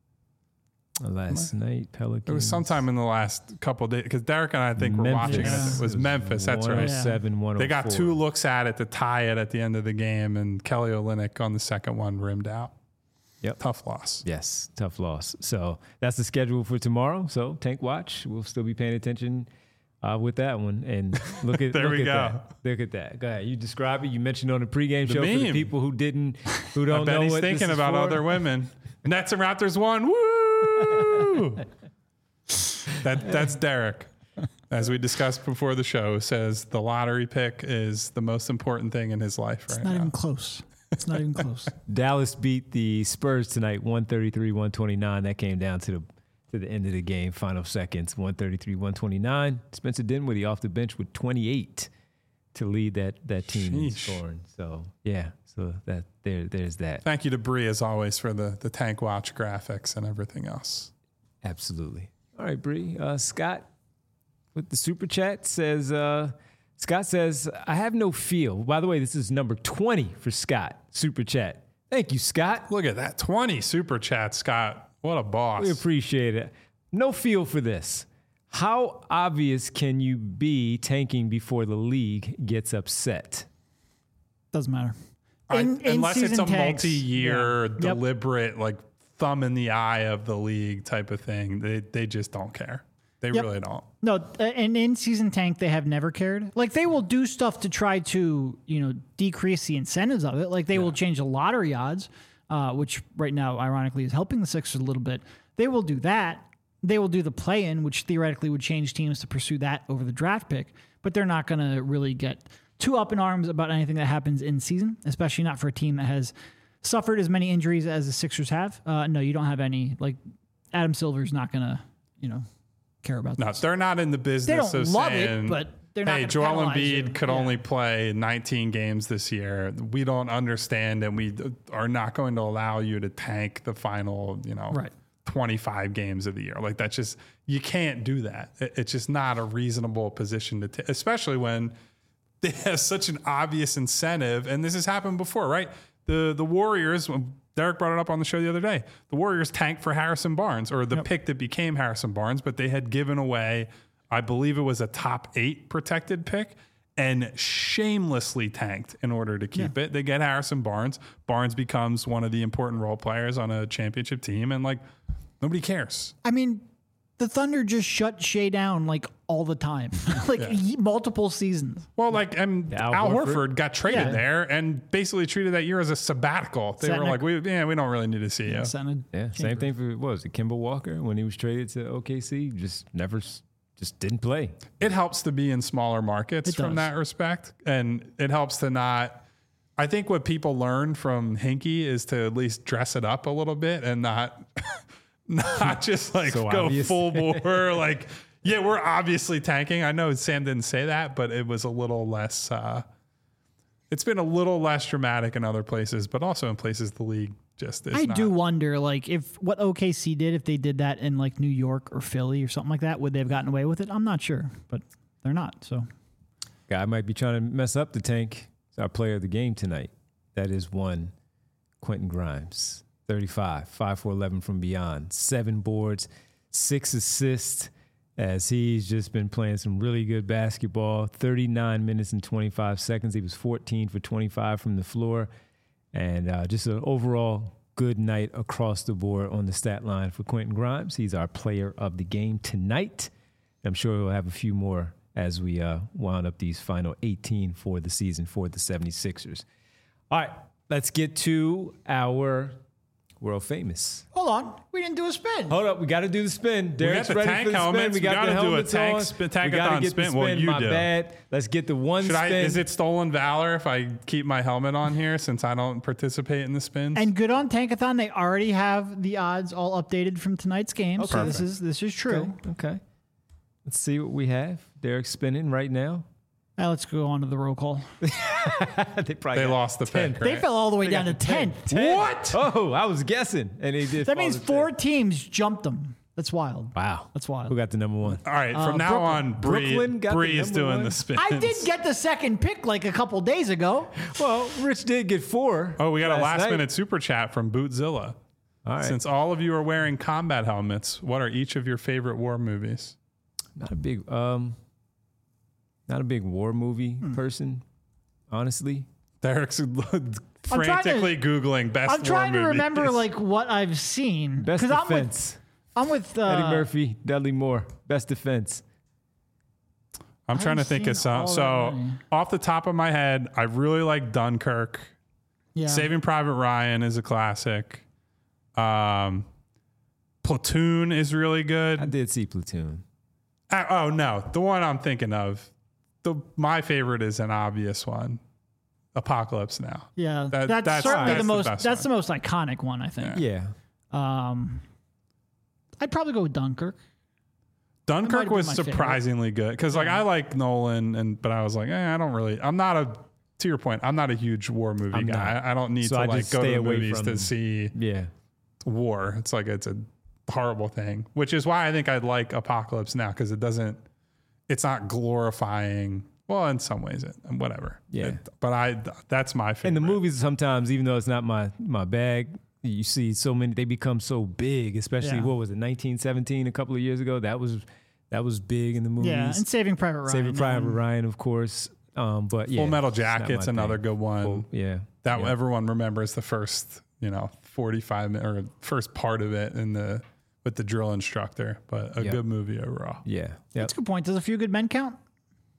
Last night, Pelicans.
It was sometime in the last couple of days because Derek and I think were watching it.
Memphis.
It was Memphis. That's right.
one oh seven, one oh four.
They got two looks at it to tie it at the end of the game, and Kelly Olynyk on the second one rimmed out.
Yep.
Tough loss.
Yes, tough loss. So that's the schedule for tomorrow. So Tank Watch, we'll still be paying attention uh, with that one. And look at
there
look
we
at
go.
That. Look at that. Go ahead. You describe it. You mentioned on the pregame
The
show for the
meme.
people who didn't, who
I
don't
bet
know
he's
what
thinking
this is
about
for.
other women. Nets and Raptors won. Woo! that that's Derek. As we discussed before the show, says the lottery pick is the most important thing in his life
It's
right
not
now.
even close. It's not even close.
Dallas beat the Spurs tonight, one thirty-three, one twenty-nine. That came down to the to the end of the game, final seconds, one thirty-three, one twenty-nine. Spencer Dinwiddie off the bench with twenty-eight to lead that that team in
Sheesh.
scoring. So yeah, so that there there's that.
Thank you to Bree as always for the the Tank Watch graphics and everything else.
Absolutely. All right, Bree. Uh, Scott with the super chat says, uh, Scott says, I have no feel. By the way, this is number twenty for Scott, super chat. Thank you, Scott.
Look at that. twenty super chat, Scott. What a boss.
We appreciate it. No feel for this. How obvious can you be tanking before the league gets upset?
Doesn't matter.
I-
In- in
unless it's a
season tanks,
multi-year,
yeah. Yep.
deliberate, like thumb in the eye of the league type of thing, they they just don't care. They
Yep.
really don't.
No, uh, an in-season tank, they have never cared. Like, they will do stuff to try to, you know, decrease the incentives of it. Like, they will change the lottery odds, uh, which right now, ironically, is helping the Sixers a little bit. They will do that. they will do the play-in, which theoretically would change teams to pursue that over the draft pick. But they're not going to really get too up in arms about anything that happens in season, especially not for a team that has suffered as many injuries as the Sixers have. Uh, no, you don't have any. Like Adam Silver's not going to, you know, care about
No,
this.
they're not in the
They
business
don't
of
love
saying,
it, but they're not.
hey,
gonna
Joel
penalize
Embiid
you.
could
Yeah.
only play nineteen games this year. We don't understand, and we are not going to allow you to tank the final, you know,
Right.
twenty-five games of the year. Like that's just, you can't do that. It- It's just not a reasonable position to take, especially when they have such an obvious incentive. And this has happened before, right? The the Warriors, Derek brought it up on the show the other day. The Warriors tanked for Harrison Barnes, or the pick that became Harrison Barnes, but they had given away, I believe it was a top eight protected pick, and shamelessly tanked in order to keep it. They get Harrison Barnes. Barnes becomes one of the important role players on a championship team, and like nobody cares.
I mean, the Thunder just shut Shea down like all the time, like ye- multiple seasons.
Well, like and
Al
Al, Horford.
Horford.
got traded
Yeah.
there and basically treated that year as a sabbatical. They
Sat
were
in a-
like, we yeah, we don't really need to see you.
Senate
Yeah, same
chamber.
thing for what was it, Kemba Walker when he was traded to O K C, just never, s- just didn't play.
It helps to be in smaller markets
It
from
does.
that respect, and it helps to not. I think what people learned from Hinkie is to at least dress it up a little bit and not, not just like
So
go
obvious.
full bore. Like, yeah, we're obviously tanking. I know Sam didn't say that, but it was a little less. Uh, it's been a little less dramatic in other places, but also in places the league just is
I
not.
do wonder, like, if what O K C did, if they did that in like New York or Philly or something like that, would they have gotten away with it? I'm not sure, but they're not. So
Guy might be trying to mess up the tank. It's our player of the game tonight. That is one, Quentin Grimes, thirty-five, five for eleven from beyond, seven boards, six assists, as he's just been playing some really good basketball. thirty-nine minutes and twenty-five seconds. He was fourteen for twenty-five from the floor. And uh, just an overall good night across the board on the stat line for Quentin Grimes. He's our player of the game tonight. I'm sure we'll have a few more as we uh, wound up these final eighteen for the season for the seventy-sixers. All right, let's get to our world famous.
hold on, we didn't do a spin.
Hold up, we got to do the spin. Derek's
the
ready
tank
for the spin.
helmets.
We
We
got
gotta
the
do a
helmets
tank
on.
spin-
we got
tankathon
to get
spin.
the
Well,
spin.
you
My
do.
bad. Let's get the one
Should
spin.
I? Is it stolen valor if I keep my helmet on here since I don't participate in the spins?
And good on Tankathon. They already have the odds all updated from tonight's game. So this is this is true.
Okay. okay. Let's see what we have. Derek's spinning right now.
Now let's go on to the roll call.
they probably
they
got
lost the
ten.
pick.
They
Right?
fell all the way
They
down to
got ten.
tenth.
ten.
What?
Oh, I was guessing, and they did.
That
fall
means
to
four
ten.
teams jumped them. That's wild.
Wow,
That's wild.
Who got the number one?
All right, from
Uh,
now
Brooklyn.
on, Bree,
Brooklyn got the
Bree is
number
doing
one?
the spins.
I did get the second pick like a couple days ago.
Well, Rich did get four.
Oh, we got a
last
last
night.
minute super chat from Bootzilla.
All right,
Since all of you are wearing combat helmets, what are each of your favorite war movies?
not a big, um, not a big war movie
Hmm.
person, honestly.
Derek's
trying
frantically googling best
I'm trying
war
to
movies.
remember like what I've seen.
Best
'Cause I'm with,
defense.
I'm with uh,
Eddie Murphy, Dudley Moore. Best defense.
I'm trying to
I've
think of
seen
some.
all
So,
that many.
off the top of my head, I really like Dunkirk.
Yeah.
Saving Private Ryan is a classic. Um, Platoon is really good.
I did see Platoon.
Uh, oh no, the one I'm thinking of, the my favorite is an obvious one, Apocalypse Now.
Yeah,
That-
that's,
that's-
certainly
that's
the
the
most.
best
that's
one.
the most iconic one, I think.
Yeah.
Um, I'd probably go with Dunkirk.
Dunkirk
might
was
be my favorite.
surprisingly good because like I like Nolan and but I was like eh, I don't really I'm not a to your point I'm not a huge war movie
I'm
guy.
not.
I, I don't need
So
to
I
like
just
go to
stay
the
away
movies
from-
to see
Yeah.
war. It's like it's a horrible thing, which is why I think I'd like Apocalypse Now because it doesn't it's not glorifying. Well, in some ways, it whatever.
Yeah.
It- but I that's my favorite.
And the movies sometimes, even though it's not my my bag, you see so many. They become so big, especially
Yeah.
what was it, nineteen seventeen, a couple of years ago. That was that was big in the movies.
Yeah, and Saving Private Ryan.
Saving Private
um,
Ryan, of course. Um, but yeah,
Full Metal
it's not
Jacket's
my
another
thing.
good one.
Full- yeah,
that
yeah.
everyone remembers the first, you know, forty-five minute or first part of it in the with the drill instructor, but a
Yep.
good movie overall.
Yeah, yeah.
That's a good point. Does a few good men count?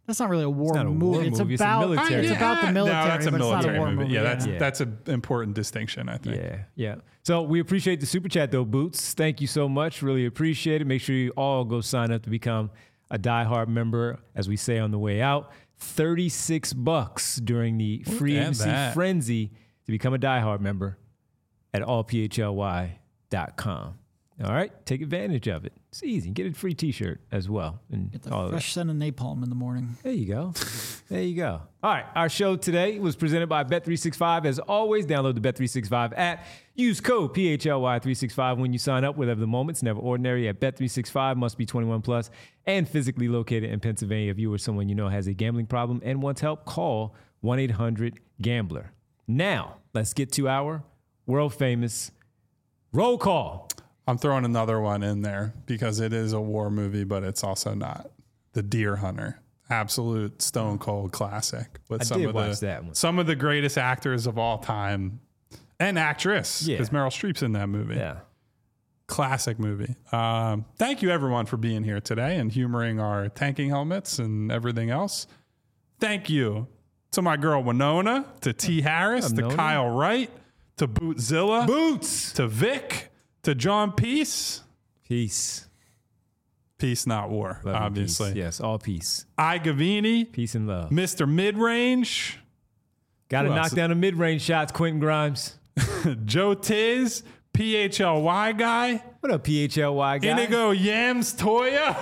That's not really a war
not a
movie.
war
it's
movie, it's a
about
military
it's
movie.
about the military,
No, that's a
but
military
it's not a war
movie.
movie.
Yeah, that's
yeah.
that's an important distinction, I think.
Yeah, yeah. So we appreciate the super chat, though, Boots. Thank you so much. Really appreciate it. Make sure you all go sign up to become a diehard member, as we say on the way out. thirty-six bucks during the free
at
agency
that.
frenzy to become a diehard member at all p h l y dot com. All right, take advantage of it. It's easy. Get a free T-shirt as well. And
Get the
all of that.
fresh scent of napalm in the morning.
There you go. There you go. All right. Our show today was presented by Bet three sixty-five. As always, download the Bet three sixty-five app. Use code P H L Y three sixty-five when you sign up. Whatever the moment's never ordinary at Bet three sixty-five. Must be twenty-one plus and physically located in Pennsylvania. If you or someone you know has a gambling problem and wants help, call one eight hundred gambler. Now, let's get to our world famous roll call.
I'm throwing another one in there because it is a war movie, but it's also not. The Deer Hunter, absolute stone cold classic with
I
some
did
of
watch
the
that one.
some of the greatest actors of all time and actress
Yeah.
because Meryl Streep's in that movie.
Yeah.
Classic movie. Um, thank you everyone for being here today and humoring our tanking helmets and everything else. Thank you to my girl Winona, to T Harris, to
Winona.
Kyle Wright, to Bootzilla,
Boots.
to Vic, to John Peace.
Peace.
Peace, not war,
Love and
obviously.
peace. Yes, all peace.
I Gavini,
Peace and love.
Mister Midrange,
Got to
Who
knock
else?
down the mid-range shots, Quentin Grimes.
Joe Tiz, P H L Y guy,
What up, P H L Y guy?
Inigo Yams Toya.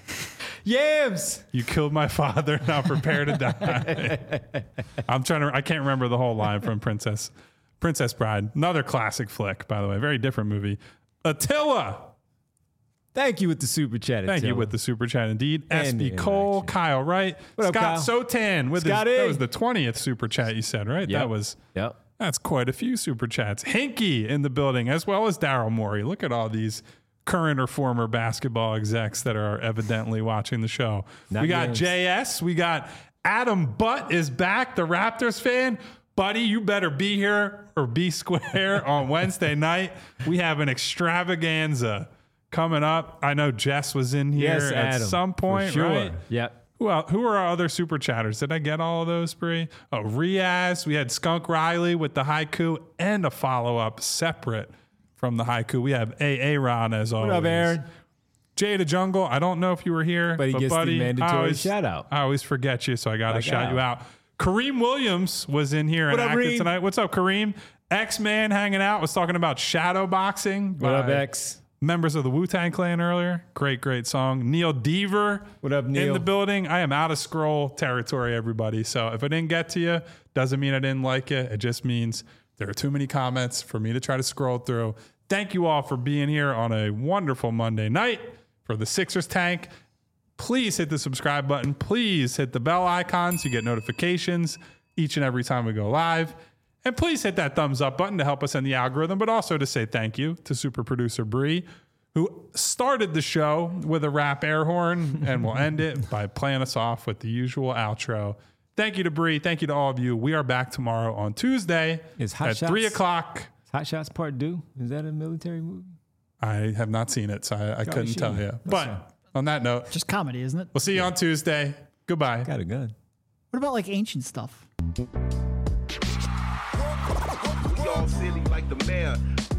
Yams.
You killed my father, now prepare to die. I'm trying to, I can't remember the whole line from Princess Princess Bride. Another classic flick, by the way. Very different movie. Attila.
Thank you with the super chat.
Thank you
Attila.
with the super chat indeed. S
And
B
the
Cole,
interaction.
Kyle Wright,
What up,
Scott
Kyle?
Sotan with his,
Scotty.
that was the twentieth super chat you said, right?
Yep.
That was
Yep.
That's quite a few super chats. Hinky in the building, as well as Daryl Morey. Look at all these current or former basketball execs that are evidently watching the show.
Not
we got
games.
J S. We got Adam Butt is back, the Raptors fan. Buddy, you better be here or be square on Wednesday night. We have an extravaganza coming up. I know Jess was in here
Yes,
at
Adam.
some
for
point,
sure.
right?
Yep.
Who else, who are our other super chatters? Did I get all of those, Bree? Oh, Riaz. We had Skunk Riley with the haiku and a follow up separate from the haiku. We have A A Ron as always.
What up, Aaron?
Jay the Jungle. I don't know if you were here,
But he gets the
buddy,
mandatory
I always,
shout out.
I always forget you, so I got to
Like
shout
Al.
you out. Kareem Williams was in here
What
and
up,
acted
Reem?
tonight. What's up, Kareem? X-Man hanging out was talking about shadow boxing.
What up,
by
X?
Members of the Wu-Tang Clan earlier. Great, great song. Neil Deaver.
What up,
In
Neil?
the building. I am out of scroll territory, everybody. So if I didn't get to you, doesn't mean I didn't like it. It just means there are too many comments for me to try to scroll through. Thank you all for being here on a wonderful Monday night for the Sixers Tank. Please hit the subscribe button. Please hit the bell icon so you get notifications each and every time we go live. And please hit that thumbs up button to help us in the algorithm, but also to say thank you to super producer Bree, who started the show with a rap air horn and will end it by playing us off with the usual outro. Thank you to Bree. Thank you to all of you. We are back tomorrow on Tuesday
Is Hot
at
Shots-
three o'clock.
Hot Shots Part Two. Is that a military movie?
I have not seen it, so I, I couldn't
should.
tell you. But on that note,
Just comedy, isn't it?
we'll see you on Tuesday. Goodbye.
Got a gun.
What about like ancient stuff?
We all silly like the mayor.